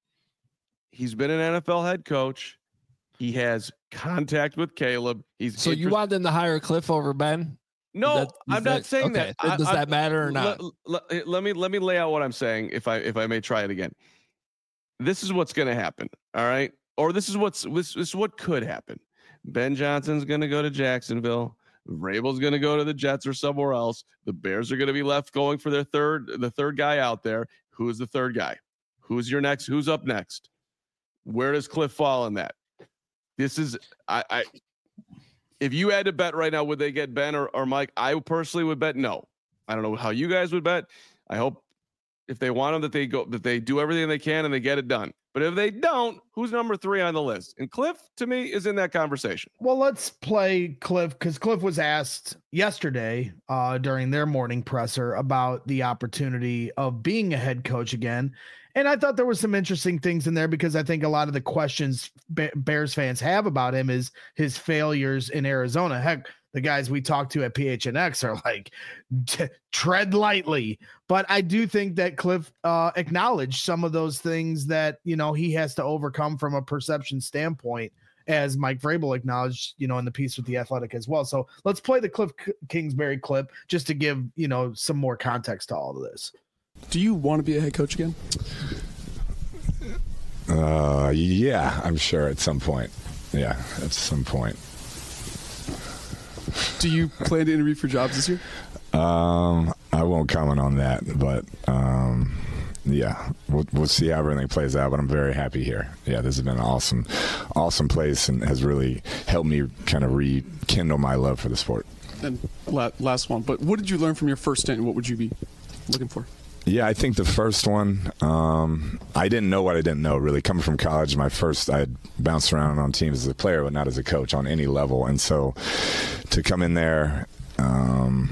A: He's been an N F L head coach. He has contact with Caleb. He's
C: So you
A: interest-
C: want them to hire Cliff over Ben?
A: No,
C: That- is
A: I'm not
C: that-
A: saying
C: okay.
A: that. I-
C: Does
A: I-
C: that matter or not?
A: Let, let, let me let me lay out what I'm saying. If I if I may try it again, this is what's going to happen. All right, or this is what's this, this is what could happen. Ben Johnson's going to go to Jacksonville. Vrabel's going to go to the Jets or somewhere else. The Bears are going to be left going for their third the third guy out there. Who's the third guy? Who's your next? Who's up next? Where does Cliff fall in that? This is I. I if you had to bet right now, would they get Ben or, or Mike? I personally would bet no. I don't know how you guys would bet. I hope if they want them that they go that they do everything they can and they get it done. But if they don't, who's number three on the list? And Cliff, to me, is in that conversation.
B: Well, let's play Cliff because Cliff was asked yesterday uh, during their morning presser about the opportunity of being a head coach again. And I thought there was some interesting things in there because I think a lot of the questions Be- Bears fans have about him is his failures in Arizona. Heck, the guys we talked to at P H N X are like, tread lightly. But I do think that Cliff uh, acknowledged some of those things that, you know, he has to overcome from a perception standpoint, as Mike Vrabel acknowledged, you know, in the piece with The Athletic as well. So let's play the Cliff Kingsbury clip just to give, you know, some more context to all of this.
F: Do you want to be a head coach again?
G: Uh, yeah, I'm sure at some point. Yeah, at some point.
F: Do you plan to interview for jobs this year?
G: Um, I won't comment on that, but um, yeah, we'll, we'll see how everything plays out. But I'm very happy here. Yeah, this has been an awesome, awesome place and has really helped me kind of rekindle my love for the sport.
F: And la- last one, but what did you learn from your first stint, and what would you be looking for?
G: Yeah, I think the first one, um, I didn't know what I didn't know, really. Coming from college, my first, I had bounced around on teams as a player, but not as a coach on any level. And so to come in there, um,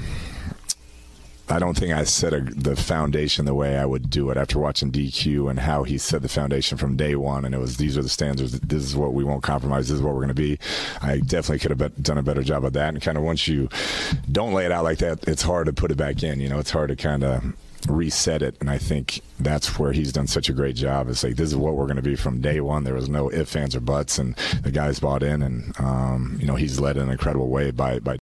G: I don't think I set a, the foundation the way I would do it after watching D Q and how he set the foundation from day one. And it was, these are the standards. This is what we won't compromise. This is what we're going to be. I definitely could have bet, done a better job of that. And kind of once you don't lay it out like that, it's hard to put it back in. You know, it's hard to kind of reset it, and I think that's where he's done such a great job. It's like, this is what we're going to be from day one. There was no ifs, ands, or buts, and the guys bought in, and um, you know, he's led in an incredible way by by.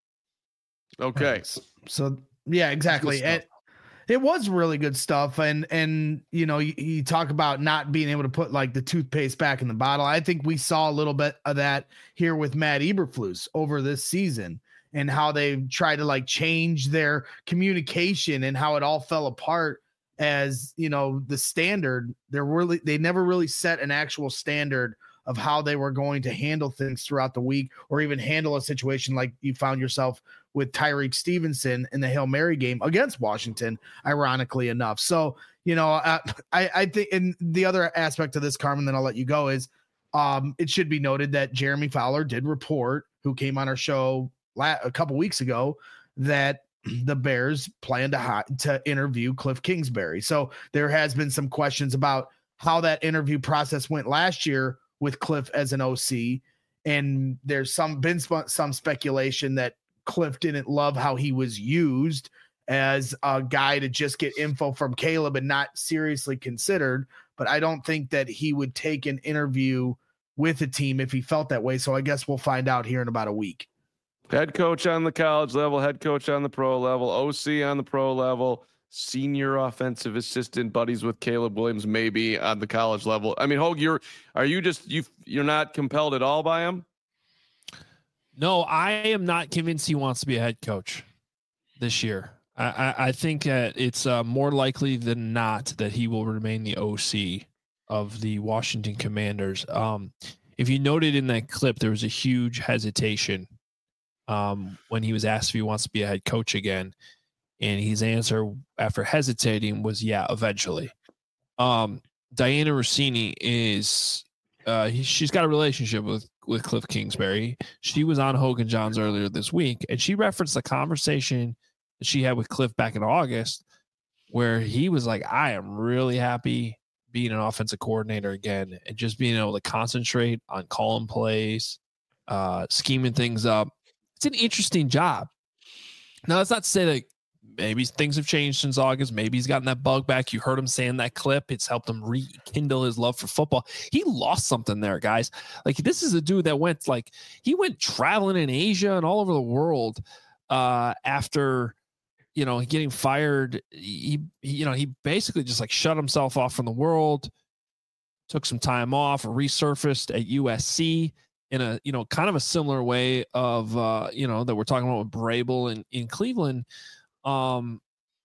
A: Okay,
B: so yeah, exactly. And it was really good stuff, and and you know, you, you talk about not being able to put like the toothpaste back in the bottle. I think we saw a little bit of that here with Matt Eberflus over this season, and how they tried to like change their communication and how it all fell apart as, you know, the standard. They're really, they never really set an actual standard of how they were going to handle things throughout the week, or even handle a situation like you found yourself with Tyreek Stevenson in the Hail Mary game against Washington, ironically enough. So, you know, uh, I, I think, and the other aspect of this, Carmen, then I'll let you go, is um, it should be noted that Jeremy Fowler did report, who came on our show a couple weeks ago, that the Bears plan to hi- to interview Cliff Kingsbury. So there has been some questions about how that interview process went last year with Cliff as an O C, and there's some been sp- some speculation that Cliff didn't love how he was used as a guy to just get info from Caleb and not seriously considered. But I don't think that he would take an interview with a team if he felt that way. So I guess we'll find out here in about a week.
A: Head coach on the college level, head coach on the pro level, O C on the pro level, senior offensive assistant, buddies with Caleb Williams, maybe on the college level. I mean, Hogue, you're are you just you you're not compelled at all by him?
C: No, I am not convinced he wants to be a head coach this year. I, I, I think that it's uh, more likely than not that he will remain the O C of the Washington Commanders. Um, if you noted in that clip, there was a huge hesitation um, when he was asked if he wants to be a head coach again. And his answer after hesitating was, yeah, eventually. Um, Diana Rossini is, uh, he, she's got a relationship with, with Cliff Kingsbury. She was on Hogan Johns earlier this week, and she referenced the conversation that she had with Cliff back in August, where he was like, I am really happy being an offensive coordinator again and just being able to concentrate on calling plays, uh, scheming things up. It's an interesting job. Now, that's not to say that maybe things have changed since August. Maybe he's gotten that bug back. You heard him saying that clip. It's helped him rekindle his love for football. He lost something there, guys. Like, this is a dude that went like he went traveling in Asia and all over the world uh, after, you know, getting fired. He, he, you know, he basically just like shut himself off from the world, took some time off, resurfaced at U S C in a, you know, kind of a similar way of, uh, you know, that we're talking about with Vrabel in, in Cleveland. Um,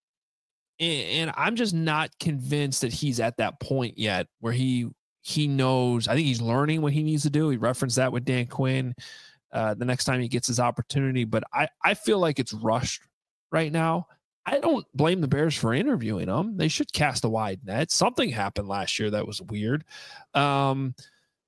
C: and, and I'm just not convinced that he's at that point yet where he, he knows, I think he's learning what he needs to do. He referenced that with Dan Quinn, uh, the next time he gets his opportunity, but I, I feel like it's rushed right now. I don't blame the Bears for interviewing him. They should cast a wide net. Something happened last year that was weird. Um,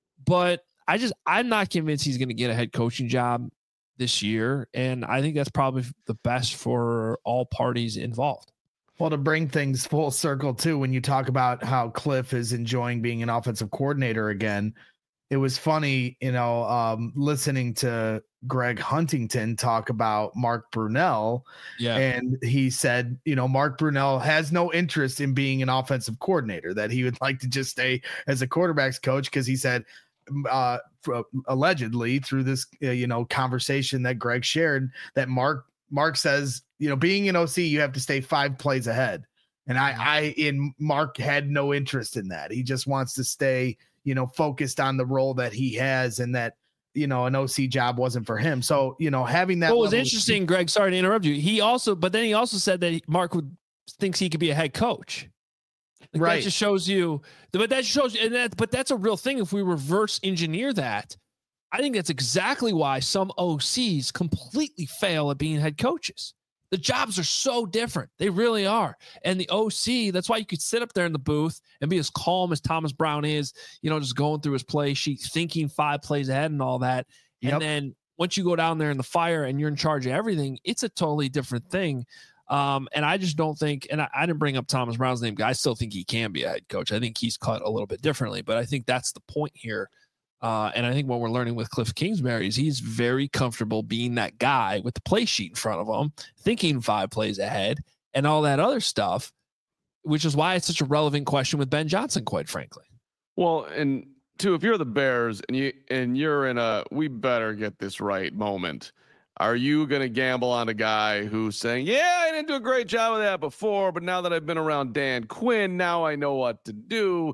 C: but I just, I'm not convinced he's going to get a head coaching job this year. And I think that's probably the best for all parties involved.
B: Well, to bring things full circle too, when you talk about how Cliff is enjoying being an offensive coordinator again, it was funny, you know, um, listening to Greg Huntington talk about Mark Brunell.
C: Yeah.
B: And he said, you know, Mark Brunell has no interest in being an offensive coordinator, that he would like to just stay as a quarterback's coach. Because he said, uh, for, allegedly through this, uh, you know, conversation that Greg shared, that Mark, Mark says, you know, being an O C, you have to stay five plays ahead. And I, I, in Mark had no interest in that. He just wants to stay, you know, focused on the role that he has, and that, you know, an O C job wasn't for him. So, you know, having that.
C: What was interesting, of- Greg, sorry to interrupt you. He also, but then he also said that Mark would thinks he could be a head coach. Like,
B: right.
C: That just shows you, but that shows you, and that, but that's a real thing. If we reverse engineer that, I think that's exactly why some O Cs completely fail at being head coaches. The jobs are so different. They really are. And the O C, that's why you could sit up there in the booth and be as calm as Thomas Brown is, you know, just going through his play sheet, thinking five plays ahead and all that. Yep. And then once you go down there in the fire and you're in charge of everything, it's a totally different thing. Um, and I just don't think, and I, I didn't bring up Thomas Brown's name, I still think he can be a head coach. I think he's cut a little bit differently, but I think that's the point here. Uh, and I think what we're learning with Cliff Kingsbury is he's very comfortable being that guy with the play sheet in front of him, thinking five plays ahead and all that other stuff, which is why it's such a relevant question with Ben Johnson, quite frankly.
A: Well, and two, if you're the Bears and you and you're in a we better get this right moment, are you going to gamble on a guy who's saying, yeah, I didn't do a great job of that before, but now that I've been around Dan Quinn, now I know what to do?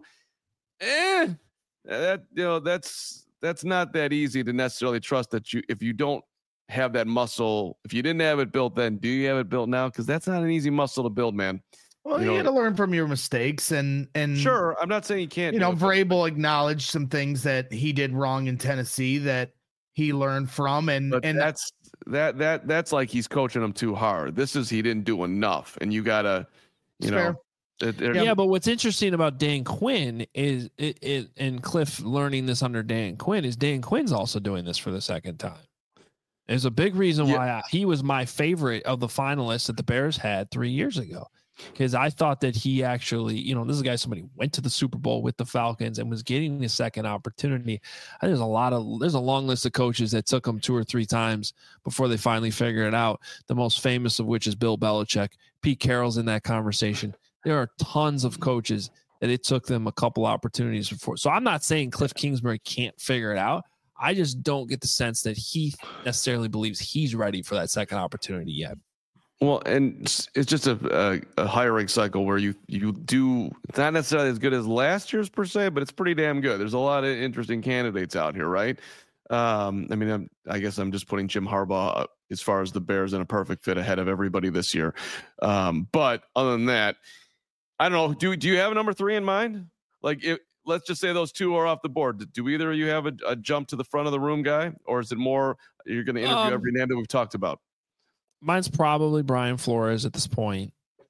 A: Eh. That, you know, that's that's not that easy to necessarily trust that you, if you don't have that muscle, if you didn't have it built then, do you have it built now? Because that's not an easy muscle to build, man.
B: Well,
A: you,
B: you
A: know,
B: got to learn from your mistakes, and and
A: sure, I'm not saying you can't.
B: You know,
A: it,
B: Vrabel acknowledged some things that he did wrong in Tennessee that he learned from, and
A: but
B: and
A: that's that that that's like he's coaching them too hard. This is he didn't do enough, and you gotta, you know.
B: Fair.
C: Yeah, but what's interesting about Dan Quinn is it, it and Cliff learning this under Dan Quinn is Dan Quinn's also doing this for the second time. There's a big reason
A: yeah.
C: why I, he was my favorite of the finalists that the Bears had three years ago, because I thought that he actually, you know, this is a guy somebody went to the Super Bowl with the Falcons and was getting his second opportunity. I think there's a lot of there's a long list of coaches that took him two or three times before they finally figured it out. The most famous of which is Bill Belichick. Pete Carroll's in that conversation. There are tons of coaches that it took them a couple opportunities before. So I'm not saying Cliff Kingsbury can't figure it out. I just don't get the sense that he necessarily believes he's ready for that second opportunity yet.
A: Well, and it's just a, a, a hiring cycle where you you do, it's not necessarily as good as last year's per se, but it's pretty damn good. There's a lot of interesting candidates out here, right? Um, I mean, I'm, I guess I'm just putting Jim Harbaugh, as far as the Bears, in a perfect fit ahead of everybody this year. Um, but other than that, I don't know. Do do you have a number three in mind? Like, if let's just say those two are off the board. Do either of you have a, a jump to the front of the room guy, or is it more you're going to interview um, every name that we've talked about?
C: Mine's probably Brian Flores at this point.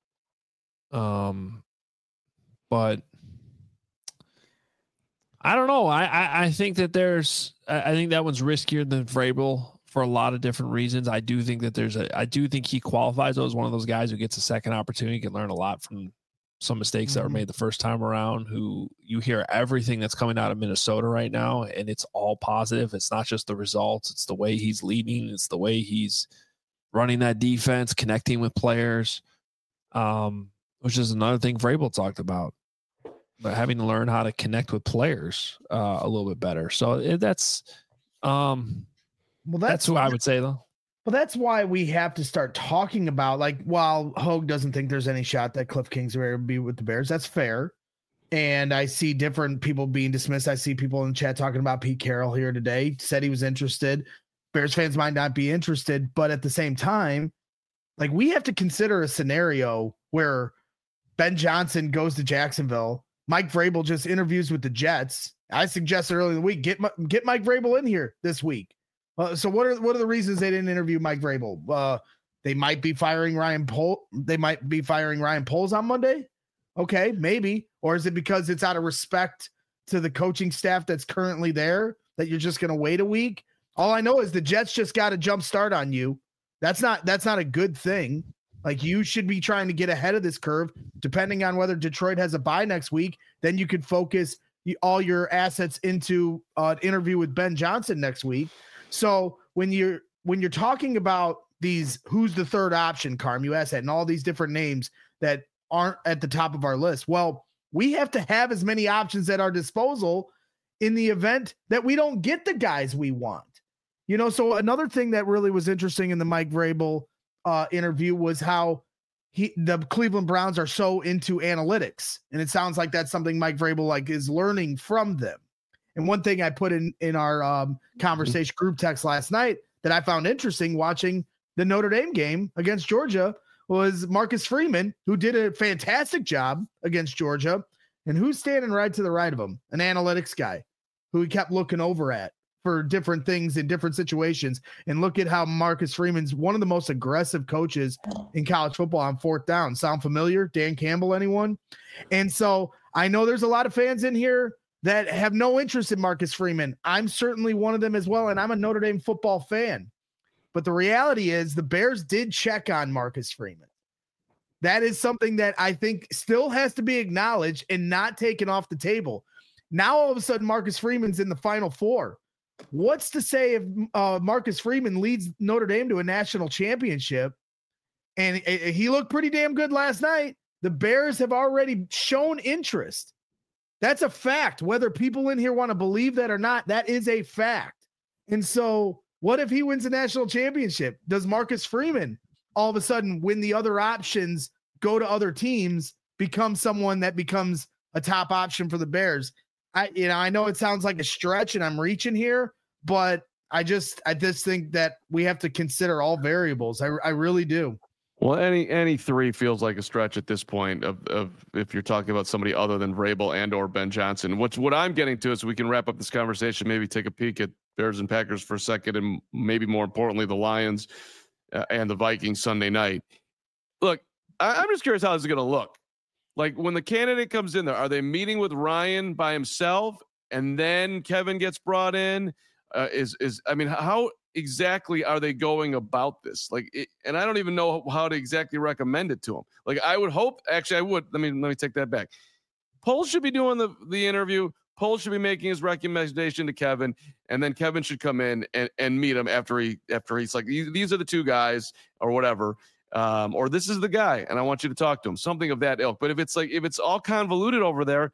C: Um, but I don't know. I, I, I think that there's, I think that one's riskier than Vrabel for a lot of different reasons. I do think that there's a, I do think he qualifies as one of those guys who gets a second opportunity, can learn a lot from some mistakes mm-hmm. that were made the first time around, who you hear everything that's coming out of Minnesota right now, and it's all positive. It's not just the results. It's the way he's leading. It's the way he's running that defense, connecting with players, um, which is another thing Vrabel talked about. But having to learn how to connect with players uh, a little bit better. So it, that's, um, well, that's, that's who I would say though.
B: Well, that's why we have to start talking about, like, while Hogue doesn't think there's any shot that Cliff Kingsbury will be with the Bears, that's fair. And I see different people being dismissed. I see people in the chat talking about Pete Carroll here today, said he was interested. Bears fans might not be interested, but at the same time, like, we have to consider a scenario where Ben Johnson goes to Jacksonville. Mike Vrabel just interviews with the Jets. I suggested earlier in the week, get get Mike Vrabel in here this week. Uh, so what are what are the reasons they didn't interview Mike Vrabel? Uh, they might be firing Ryan Pol. They might be firing Ryan Poles on Monday. Okay, maybe. Or is it because it's out of respect to the coaching staff that's currently there that you're just going to wait a week? All I know is the Jets just got a jump start on you. That's not that's not a good thing. Like, you should be trying to get ahead of this curve, depending on whether Detroit has a bye next week. Then you could focus all your assets into uh, an interview with Ben Johnson next week. So when you're when you're talking about these, who's the third option, Carm, you asked that, and all these different names that aren't at the top of our list. Well, we have to have as many options at our disposal in the event that we don't get the guys we want. You know, so another thing that really was interesting in the Mike Vrabel uh, interview was how he, the Cleveland Browns are so into analytics. And it sounds like that's something Mike Vrabel like is learning from them. And one thing I put in, in our um, conversation group text last night that I found interesting watching the Notre Dame game against Georgia was Marcus Freeman, who did a fantastic job against Georgia. And who's standing right to the right of him? An analytics guy who he kept looking over at for different things in different situations. And look at how Marcus Freeman's one of the most aggressive coaches in college football on fourth down. Sound familiar? Dan Campbell, anyone? And so I know there's a lot of fans in here that have no interest in Marcus Freeman. I'm certainly one of them as well, and I'm a Notre Dame football fan. But the reality is the Bears did check on Marcus Freeman. That is something that I think still has to be acknowledged and not taken off the table. Now, all of a sudden, Marcus Freeman's in the Final Four. What's to say if uh, Marcus Freeman leads Notre Dame to a national championship? And uh, he looked pretty damn good last night. The Bears have already shown interest. That's a fact. Whether people in here want to believe that or not, that is a fact. And so what if he wins a national championship? Does Marcus Freeman all of a sudden, when the other options go to other teams, become someone that becomes a top option for the Bears? I, you know, I know it sounds like a stretch and I'm reaching here, but I just, I just think that we have to consider all variables. I, I really do.
A: Well, any any three feels like a stretch at this point of, of if you're talking about somebody other than Vrabel and or Ben Johnson. What's what I'm getting to is so we can wrap up this conversation, maybe take a peek at Bears and Packers for a second, and maybe more importantly, the Lions uh, and the Vikings Sunday night. Look, I, I'm just curious how this is going to look. Like, when the candidate comes in there, are they meeting with Ryan by himself and then Kevin gets brought in? Uh, is, is, I mean, how exactly are they going about this? Like, it, and I don't even know how to exactly recommend it to them. Like, I would hope, actually I would, let me, let me take that back. Poles should be doing the, the interview. Poles should be making his recommendation to Kevin, and then Kevin should come in and, and meet him after he, after he's like, these are the two guys or whatever. Um, or this is the guy, and I want you to talk to him, something of that ilk. But if it's like, if it's all convoluted over there,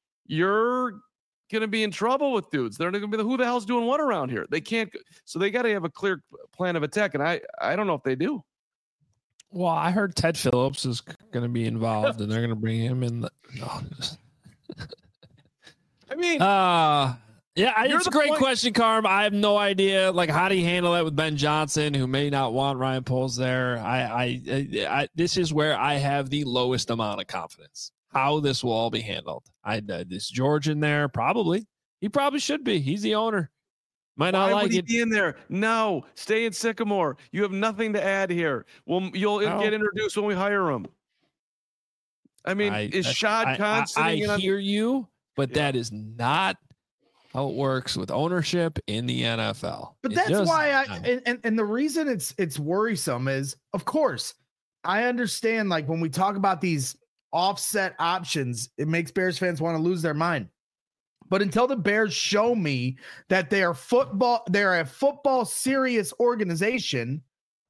A: you're going to be in trouble with dudes. They're going to be the, who the hell's doing what around here? They can't. So they got to have a clear plan of attack. And I, I don't know if they do.
C: Well, I heard Ted Phillips is going to be involved and they're going to bring him in. The, no.
A: I mean,
C: uh, yeah, it's a great
A: point.
C: question, Carm. I have no idea. Like, how do you handle that with Ben Johnson, who may not want Ryan Poles there? I, I, I, I, this is where I have the lowest amount of confidence. how this will all be handled. I uh, is George in there? Probably. He probably should be. He's the owner. Might not
A: Why
C: like
A: would he
C: it.
A: be in there? No, stay in Sycamore. You have nothing to add here. Well, you'll
C: No.
A: get introduced when we hire him. I mean,
C: I,
A: is Shad
C: I,
A: Khan
C: I,
A: sitting in
C: I
A: on-
C: hear you, but
A: Yeah.
C: that is not how it works with ownership in the N F L.
B: But
C: It
B: that's
C: just-
B: why I and, and and the reason it's it's worrisome is, of course, I understand, like, when we talk about these offset options, it makes Bears fans want to lose their mind. But until the Bears show me that they are football, they're a football serious organization,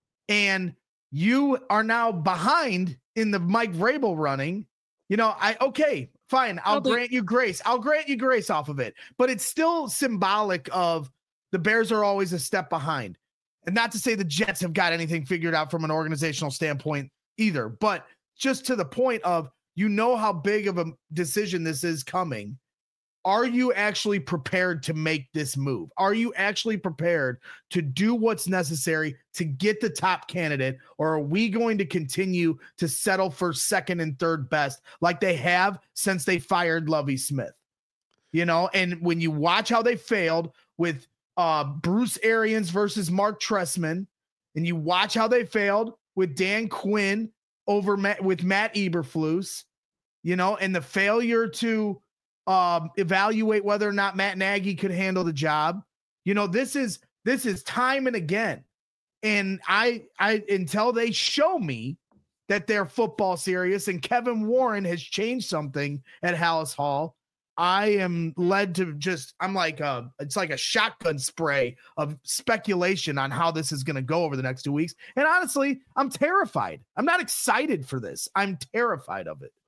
B: and you are now behind in the Mike Vrabel running, you know, I okay, fine, I'll
C: think-
B: grant you grace. I'll grant you grace off of it. But it's still symbolic of the Bears are always a step behind. And not to say the Jets have got anything figured out from an organizational standpoint either, but just to the point of, you know how big of a decision this is coming. Are you actually prepared to make this move? Are you actually prepared to do what's necessary to get the top candidate? Or are we going to continue to settle for second and third best like they have since they fired Lovie Smith? You know, and when you watch how they failed with uh, Bruce Arians versus Mark Trestman, and you watch how they failed with Dan Quinn over Matt, with Matt Eberflus, you know, and the failure to um, evaluate whether or not Matt Nagy could handle the job. You know, this is, this is time and again. And I, I, until they show me that they're football serious and Kevin Warren has changed something at Hallis Hall, I am led to just, I'm like, a, it's like a shotgun spray of speculation on how this is going to go over the next two weeks. And honestly, I'm terrified. I'm not excited for this. I'm terrified of it.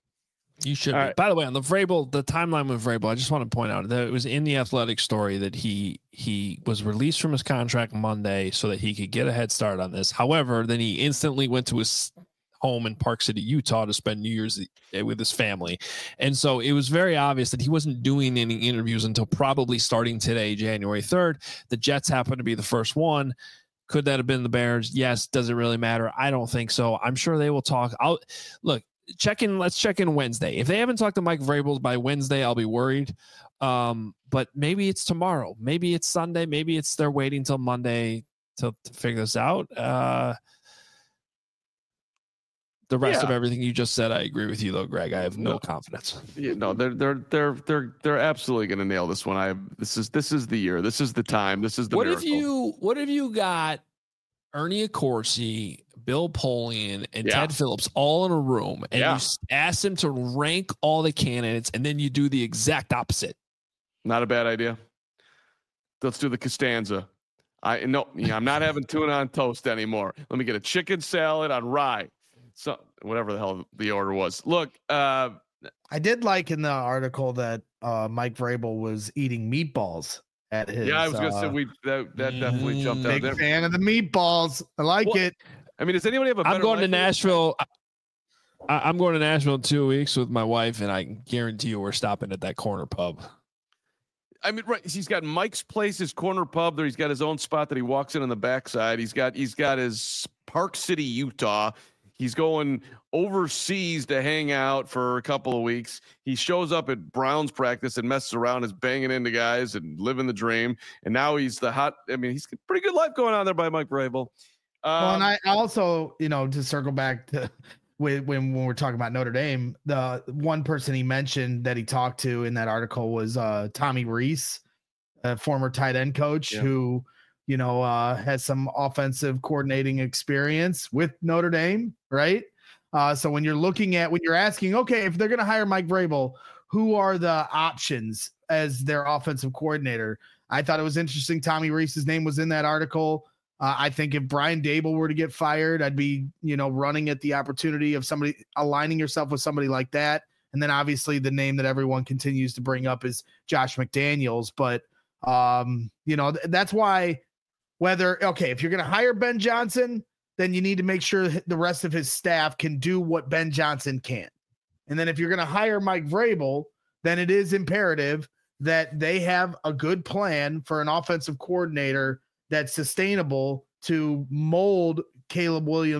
C: You should
A: All
C: be.
A: right.
C: By the way, on the Vrabel, the timeline with Vrabel, I just want to point out that it was in the Athletic story that he he was released from his contract Monday so that he could get a head start on this. However, then he instantly went to his home in Park City, Utah to spend New Year's with his family. And so it was very obvious that he wasn't doing any interviews until probably starting today, January third. The Jets happened to be the first one. Could that have been the Bears? Yes. Does it really matter? I don't think so. I'm sure they will talk. I'll look. Check in. Let's check in Wednesday. If they haven't talked to Mike Vrabel by Wednesday, I'll be worried. Um, but maybe it's tomorrow. Maybe it's Sunday. Maybe it's they're waiting till Monday to, to figure this out. Uh, the rest
A: Yeah.
C: of everything you just said, I agree with you, though, Greg. I have no,
A: No.
C: confidence.
A: Yeah, no, they're they're they're they're they're absolutely going to nail this one. I have, this is this is the year. This is the time. This is the
C: What
A: miracle.
C: if you? What if you got Ernie Accorsi, Bill Polian, and
A: Yeah.
C: Ted Phillips all in a room, and
A: Yeah.
C: you s- ask them to rank all the candidates, and then you do the exact opposite?
A: Not a bad idea. Let's do the Costanza. I no, yeah, I'm not having tuna on toast anymore. Let me get a chicken salad on rye. So whatever the hell the order was. Look, uh,
B: I did like in the article that uh, Mike Vrabel was eating meatballs at his.
A: yeah, I was gonna say
B: uh,
A: we that, that definitely jumped out
B: big
A: there.
B: fan of the meatballs. I like
A: Well,
B: it.
A: I mean, does anybody have a better
C: I'm going to
A: life than-
C: Nashville. I, I'm going to Nashville in two weeks with my wife, and I can guarantee you we're stopping at that corner pub.
A: I mean, right? He's got Mike's Place, his corner pub there. He's got his own spot that he walks in on the backside. He's got he's got his Park City, Utah. He's going overseas to hang out for a couple of weeks. He shows up at Browns practice and messes around, is banging into guys and living the dream. And now he's the hot. I mean, he's got a pretty good life going on there by Mike Vrabel. Um,
B: Well, and I also, you know, to circle back to when, when when we're talking about Notre Dame, the one person he mentioned that he talked to in that article was uh, Tommy Reese, a former tight end coach
A: Yeah.
B: who, you know, uh, has some offensive coordinating experience with Notre Dame, right? Uh, so when you're looking at, when you're asking, okay, if they're going to hire Mike Vrabel, who are the options as their offensive coordinator? I thought it was interesting. Tommy Reese's name was in that article. Uh, I think if Brian Dable were to get fired, I'd be, you know, running at the opportunity of somebody aligning yourself with somebody like that. And then obviously the name that everyone continues to bring up is Josh McDaniels. But, um, you know, th- that's why whether, okay, if you're going to hire Ben Johnson, then you need to make sure the rest of his staff can do what Ben Johnson can. And then if you're going to hire Mike Vrabel, then it is imperative that they have a good plan for an offensive coordinator that's sustainable to mold Caleb Williams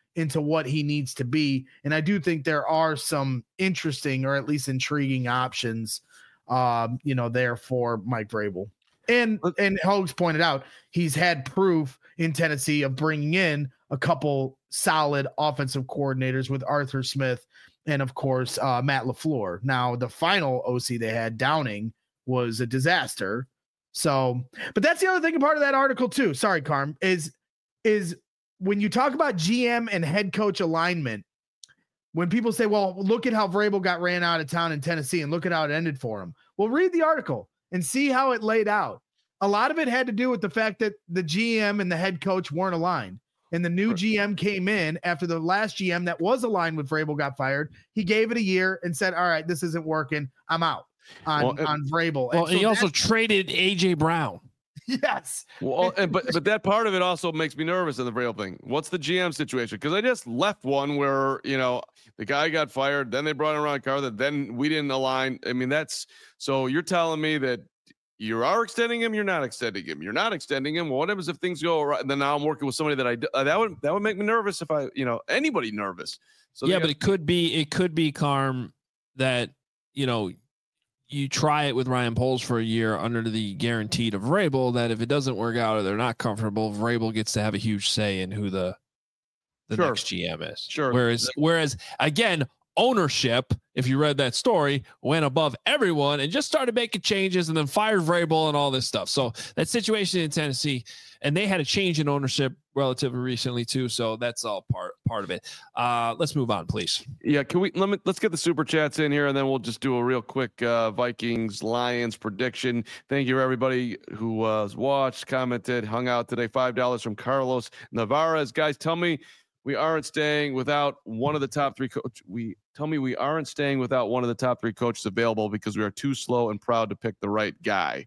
B: into what he needs to be. And I do think there are some interesting or at least intriguing options, um, you know, there for Mike Vrabel. And and Hogs pointed out he's had proof in Tennessee of bringing in a couple solid offensive coordinators with Arthur Smith and, of course, uh, Matt LaFleur. Now, the final O C they had, Downing, was a disaster. So, but that's the other thing, part of that article too. Sorry, Carm, is is when you talk about G M and head coach alignment, when people say, well, look at how Vrabel got ran out of town in Tennessee and look at how it ended for him. Well, read the article and see how it laid out. A lot of it had to do with the fact that the G M and the head coach weren't aligned. And the new right. G M came in after the last G M that was aligned with Vrabel got fired. He gave it a year and said, all right, this isn't working. I'm out on, well, on Vrabel.
C: Well,
B: and so
C: he also traded A J Brown.
B: Yes.
A: Well, and, but but that part of it also makes me nervous in the Vrabel thing. What's the G M situation? Because I just left one where, you know, the guy got fired, then they brought in Ron Carter, then we didn't align. I mean, that's so you're telling me that you are extending him, you're not extending him, you're not extending him. Well, what happens if things go right? And then now I'm working with somebody that I uh, that would that would make me nervous if I, you know, anybody nervous. So
C: yeah,
A: got-
C: but it could be it could be Carm that, you know, you try it with Ryan Poles for a year under the guaranteed of Vrabel, that if it doesn't work out or they're not comfortable, Vrabel gets to have a huge say in who the the
A: sure.
C: next G M is.
A: Sure.
C: Whereas, whereas again, ownership, if you read that story, went above everyone and just started making changes and then fired Vrabel and all this stuff. So that situation in Tennessee, and they had a change in ownership relatively recently too. So that's all part part of it. Uh, let's move on, please.
A: Yeah, can we let me let's get the super chats in here, and then we'll just do a real quick uh, Vikings Lions prediction. Thank you everybody who uh, watched, commented, hung out today. Five dollars from Carlos Navarez. Guys, tell me we aren't staying without one of the top three coach. We tell me we aren't staying without one of the top three coaches available because we are too slow and proud to pick the right guy.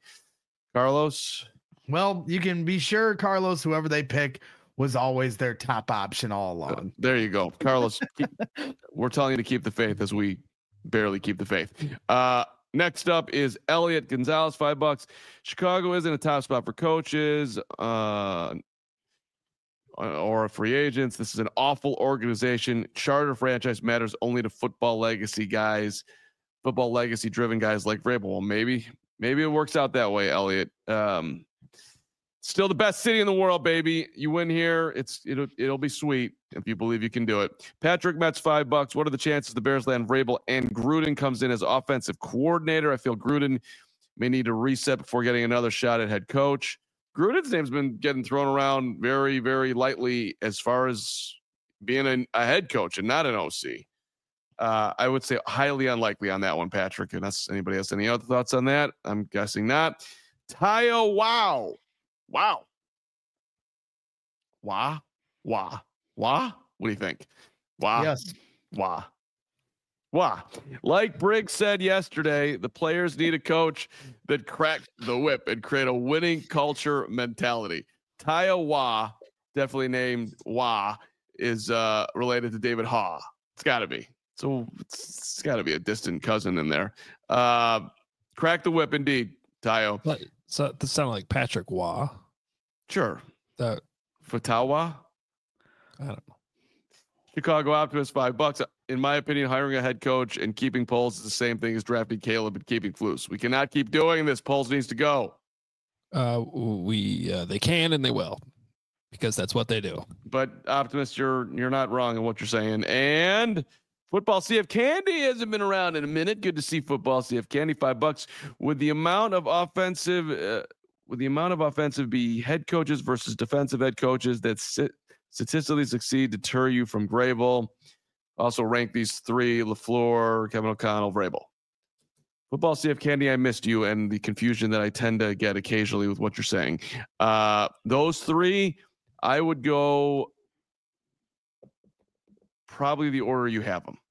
A: Carlos.
B: Well, you can be sure, Carlos, whoever they pick was always their top option all along.
A: Uh, there you go. Carlos, keep, we're telling you to keep the faith as we barely keep the faith. Uh, next up is Elliot Gonzalez, five bucks. Chicago isn't a top spot for coaches uh, or free agents. This is an awful organization. Charter franchise matters only to football legacy guys, football legacy driven guys like Vrabel. Well, maybe, maybe it works out that way, Elliot. Um, Still the best city in the world, baby. You win here, it's it'll it'll be sweet if you believe you can do it. Patrick Metz, five bucks. What are the chances the Bears land Vrabel and Gruden comes in as offensive coordinator? I feel Gruden may need to reset before getting another shot at head coach. Gruden's name's been getting thrown around very, very lightly as far as being a, a head coach and not an O C. Uh, I would say highly unlikely on that one, Patrick. Unless anybody has any other thoughts on that, I'm guessing not. Tayo, wow. Wow. Wah, wah, wah. What do you think? Wah.
B: Yes.
A: Wah. Wah. Like Briggs said yesterday, the players need a coach that cracks the whip and create a winning culture mentality. Tayo Wah, definitely named Wah, is uh, related to David Haw. It's got to be. So it's, it's got to be a distant cousin in there. Uh, crack the whip, indeed, Tayo.
C: So that sounded like Patrick Waugh.
A: Sure.
C: That
A: Fatawa.
C: I don't know.
A: Chicago Optimist, five bucks. In my opinion, hiring a head coach and keeping Poles is the same thing as drafting Caleb and keeping Flus. We cannot keep doing this. Poles needs to go.
C: Uh, we uh, they can and they will, because that's what they do.
A: But Optimist, you're you're not wrong in what you're saying. And Football C F Candy hasn't been around in a minute. Good to see Football C F Candy, five bucks. With the amount of offensive, uh, with the amount of offensive be head coaches versus defensive head coaches that sit, statistically succeed, deter you from Vrabel. Also rank these three: LaFleur, Kevin O'Connell, Vrabel. Football C F Candy, I missed you and the confusion that I tend to get occasionally with what you're saying. Uh, those three, I would go probably the order you have them.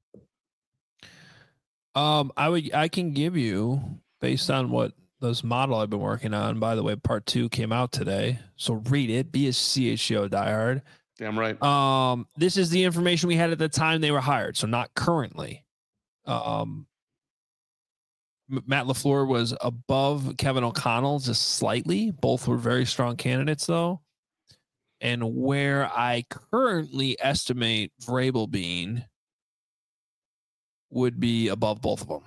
C: Um, I would, I can give you, based on what this model I've been working on. By the way, part two came out today, so read it. Be a C H G O diehard.
A: Damn right.
C: Um, this is the information we had at the time they were hired, so not currently. Um, Matt LaFleur was above Kevin O'Connell just slightly. Both were very strong candidates, though. and where I currently estimate Vrabel being would be above both of them.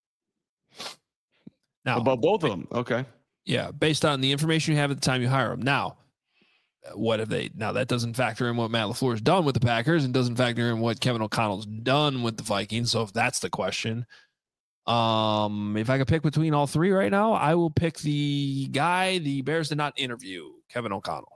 C: Now,
A: above both of them. Okay.
C: Yeah, based on the information you have at the time you hire them. Now, what have they? Now that doesn't factor in what Matt LaFleur's done with the Packers, and doesn't factor in what Kevin O'Connell's done with the Vikings. So if that's the question, um, if I could pick between all three right now, I will pick the guy the Bears did not interview, Kevin O'Connell.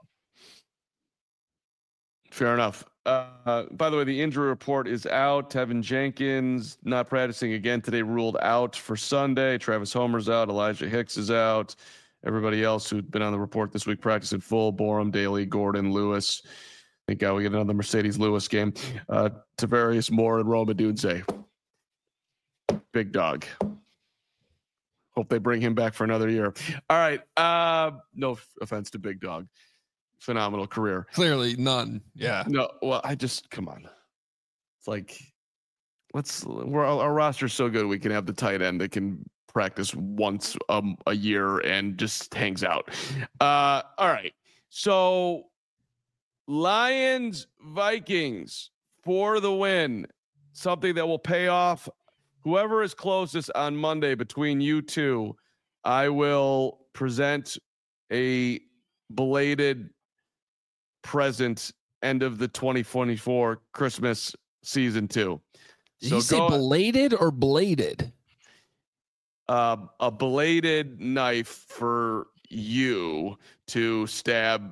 A: Fair enough. Uh, by the way, the injury report is out. Tevin Jenkins not practicing again today, ruled out for Sunday. Travis Homer's out. Elijah Hicks is out. Everybody else who'd been on the report this week practicing full. Borum, Daly, Gordon, Lewis. Thank God we get another Mercedes Lewis game. Uh, Tavarius Moore and Roma Dunze. Big dog. Hope they bring him back for another year. All right. Uh, no offense to Big Dog. Phenomenal career.
C: Clearly none. Yeah.
A: No, well, I just come on. It's like let's we're our roster's so good we can have the tight end that can practice once um, a year and just hangs out. Uh, all right. So Lions Vikings for the win. Something that will pay off whoever is closest on Monday between you two. I will present a belated present end of the twenty twenty-four Christmas season two.
C: Did
A: so
C: you say
A: go,
C: belated or bladed?
A: Uh, a bladed knife for you to stab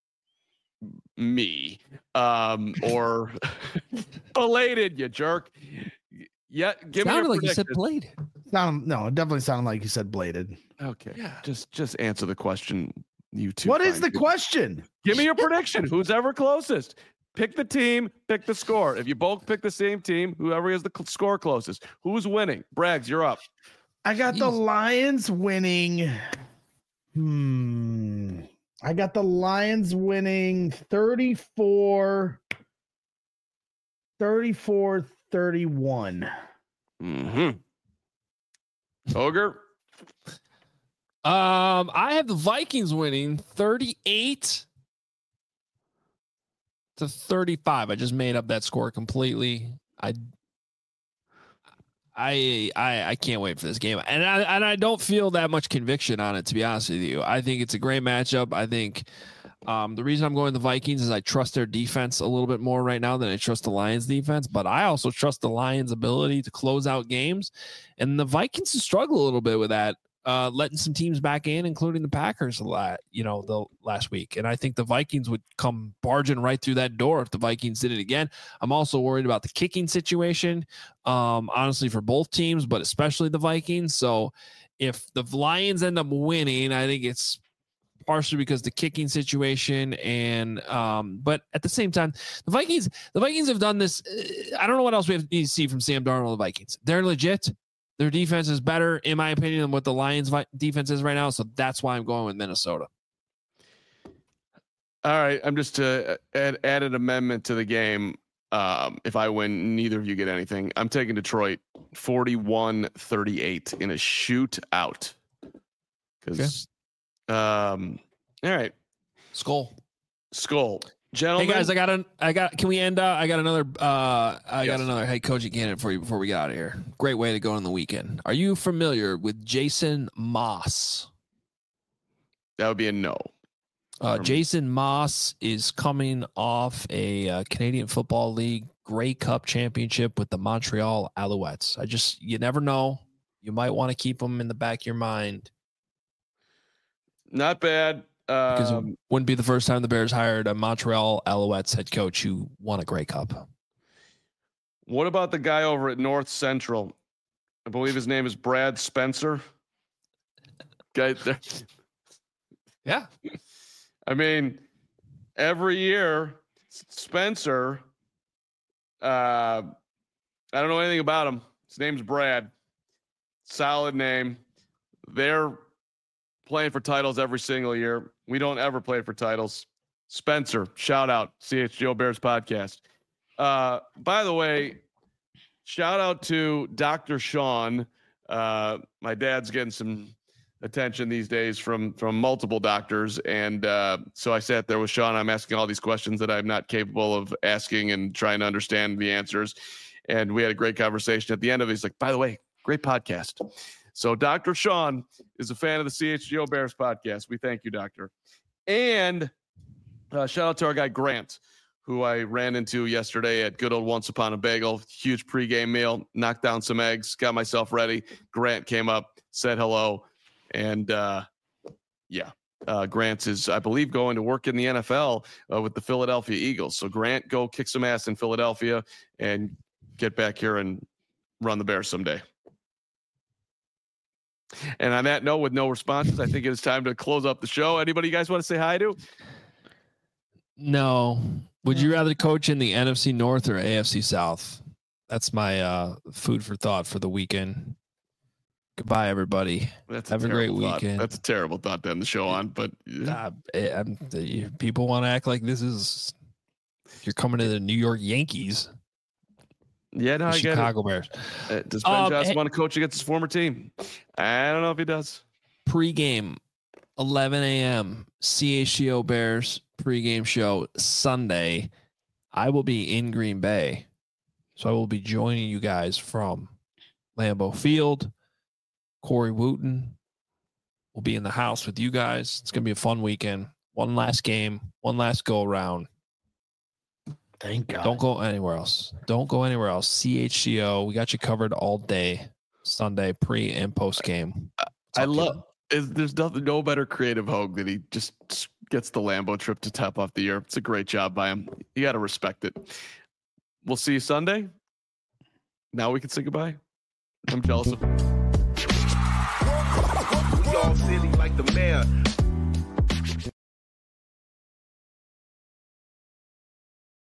A: me, um, or belated, you jerk. Yeah, give
C: Sounded
A: me a
C: like you said
A: prediction.
C: bladed.
B: Sound, no, it definitely sounded like you said bladed.
A: Okay,
C: Yeah.
A: just just answer the question. You two.
B: What is
A: find
B: the
A: people.
B: question?
A: Give me your prediction. Who's ever closest? Pick the team, pick the score. If you both pick the same team, whoever has the cl- score closest. Who's winning? Braggs, you're up.
B: I got the Lions winning. Hmm. I got the Lions winning thirty-four, thirty-four, thirty-one.
A: Mm-hmm. Ogre?
C: Um, I have the Vikings winning thirty-eight to thirty-five. I just made up that score completely. I, I, I, I can't wait for this game, and I and I don't feel that much conviction on it, to be honest with you. I think it's a great matchup. I think um, the reason I'm going the Vikings is I trust their defense a little bit more right now than I trust the Lions defense, but I also trust the Lions' ability to close out games, and the Vikings struggle a little bit with that. Uh, letting some teams back in, including the Packers, a lot, you know, the last week. And I think the Vikings would come barging right through that door if the Vikings did it again. I'm also worried about the kicking situation, um, honestly, for both teams, but especially the Vikings. So if the Lions end up winning, I think it's partially because the kicking situation and um, but at the same time, the Vikings, the Vikings have done this. Uh, I don't know what else we have to see from Sam Darnold and the Vikings. They're legit. Their defense is better, in my opinion, than what the Lions' defense is right now. So that's why I'm going with Minnesota.
A: All right. I'm just to add, add an amendment to the game. Um, if I win, neither of you get anything. I'm taking Detroit forty-one thirty-eight in a shootout. Because, okay. um, all right.
C: Skull.
A: Skull. Gentlemen.
C: Hey guys, I got an I got can we end uh I got another uh I
A: yes.
C: got another head coaching candidate for you before we get out of here. Great way to go on the weekend. Are you familiar with Jason Moss?
A: That would be a no.
C: Uh, Jason Moss is coming off a uh, Canadian Football League Grey Cup championship with the Montreal Alouettes. I just you never know. You might want to keep them in the back of your mind.
A: Not bad.
C: Because
A: um,
C: it wouldn't be the first time the Bears hired a Montreal Alouettes head coach who won a Grey Cup.
A: What about the guy over at North Central? I believe his name is Brad Spencer. Guy there.
C: Yeah.
A: I mean, every year, Spencer, uh, I don't know anything about him. His name's Brad. Solid name. They're playing for titles every single year. We don't ever play for titles. Spencer, shout out, C H G O Bears podcast. Uh, by the way, shout out to Doctor Sean. Uh, my dad's getting some attention these days from from multiple doctors, and uh, so I sat there with Sean. I'm asking all these questions that I'm not capable of asking and trying to understand the answers. And we had a great conversation. At the end of it, he's like, "By the way, great podcast." So Doctor Sean is a fan of the C H G O Bears podcast. We thank you, Doctor. And uh, shout out to our guy Grant, who I ran into yesterday at good old Once Upon a Bagel. Huge pregame meal, knocked down some eggs, got myself ready. Grant came up, said hello, and uh, yeah, uh, Grant is, I believe, going to work in the N F L uh, with the Philadelphia Eagles. So Grant, go kick some ass in Philadelphia and get back here and run the Bears someday. And on that note, with no responses, I think it is time to close up the show. Anybody you guys want to say hi to?
C: No. Would you rather coach in the N F C North or A F C South? That's my uh, food for thought for the weekend. Goodbye, everybody.
A: That's
C: Have a, a great
A: thought.
C: weekend.
A: That's a terrible thought to end the show on, but
C: uh, I'm, the, people want to act like this is you're coming to the New York Yankees.
A: Yeah, no, I get
C: Chicago
A: it.
C: Bears.
A: Uh, does Ben
C: um,
A: Johnson
C: hey,
A: want to coach against his former team? I don't know if he does.
C: Pre-game, eleven a.m. C H G O Bears pre-game show Sunday. I will be in Green Bay, so I will be joining you guys from Lambeau Field. Corey Wooten will be in the house with you guys. It's going to be a fun weekend. One last game, one last go around.
B: Thank God.
C: Don't go anywhere else. Don't go anywhere else. C H G O, we got you covered all day, Sunday, pre and post game.
A: I love. Is, there's nothing, no better creative Hogue that he just gets the Lambeau trip to top off the year. It's a great job by him. You got to respect it. We'll see you Sunday. Now we can say goodbye. I'm jealous of.
H: We all silly like the mayor.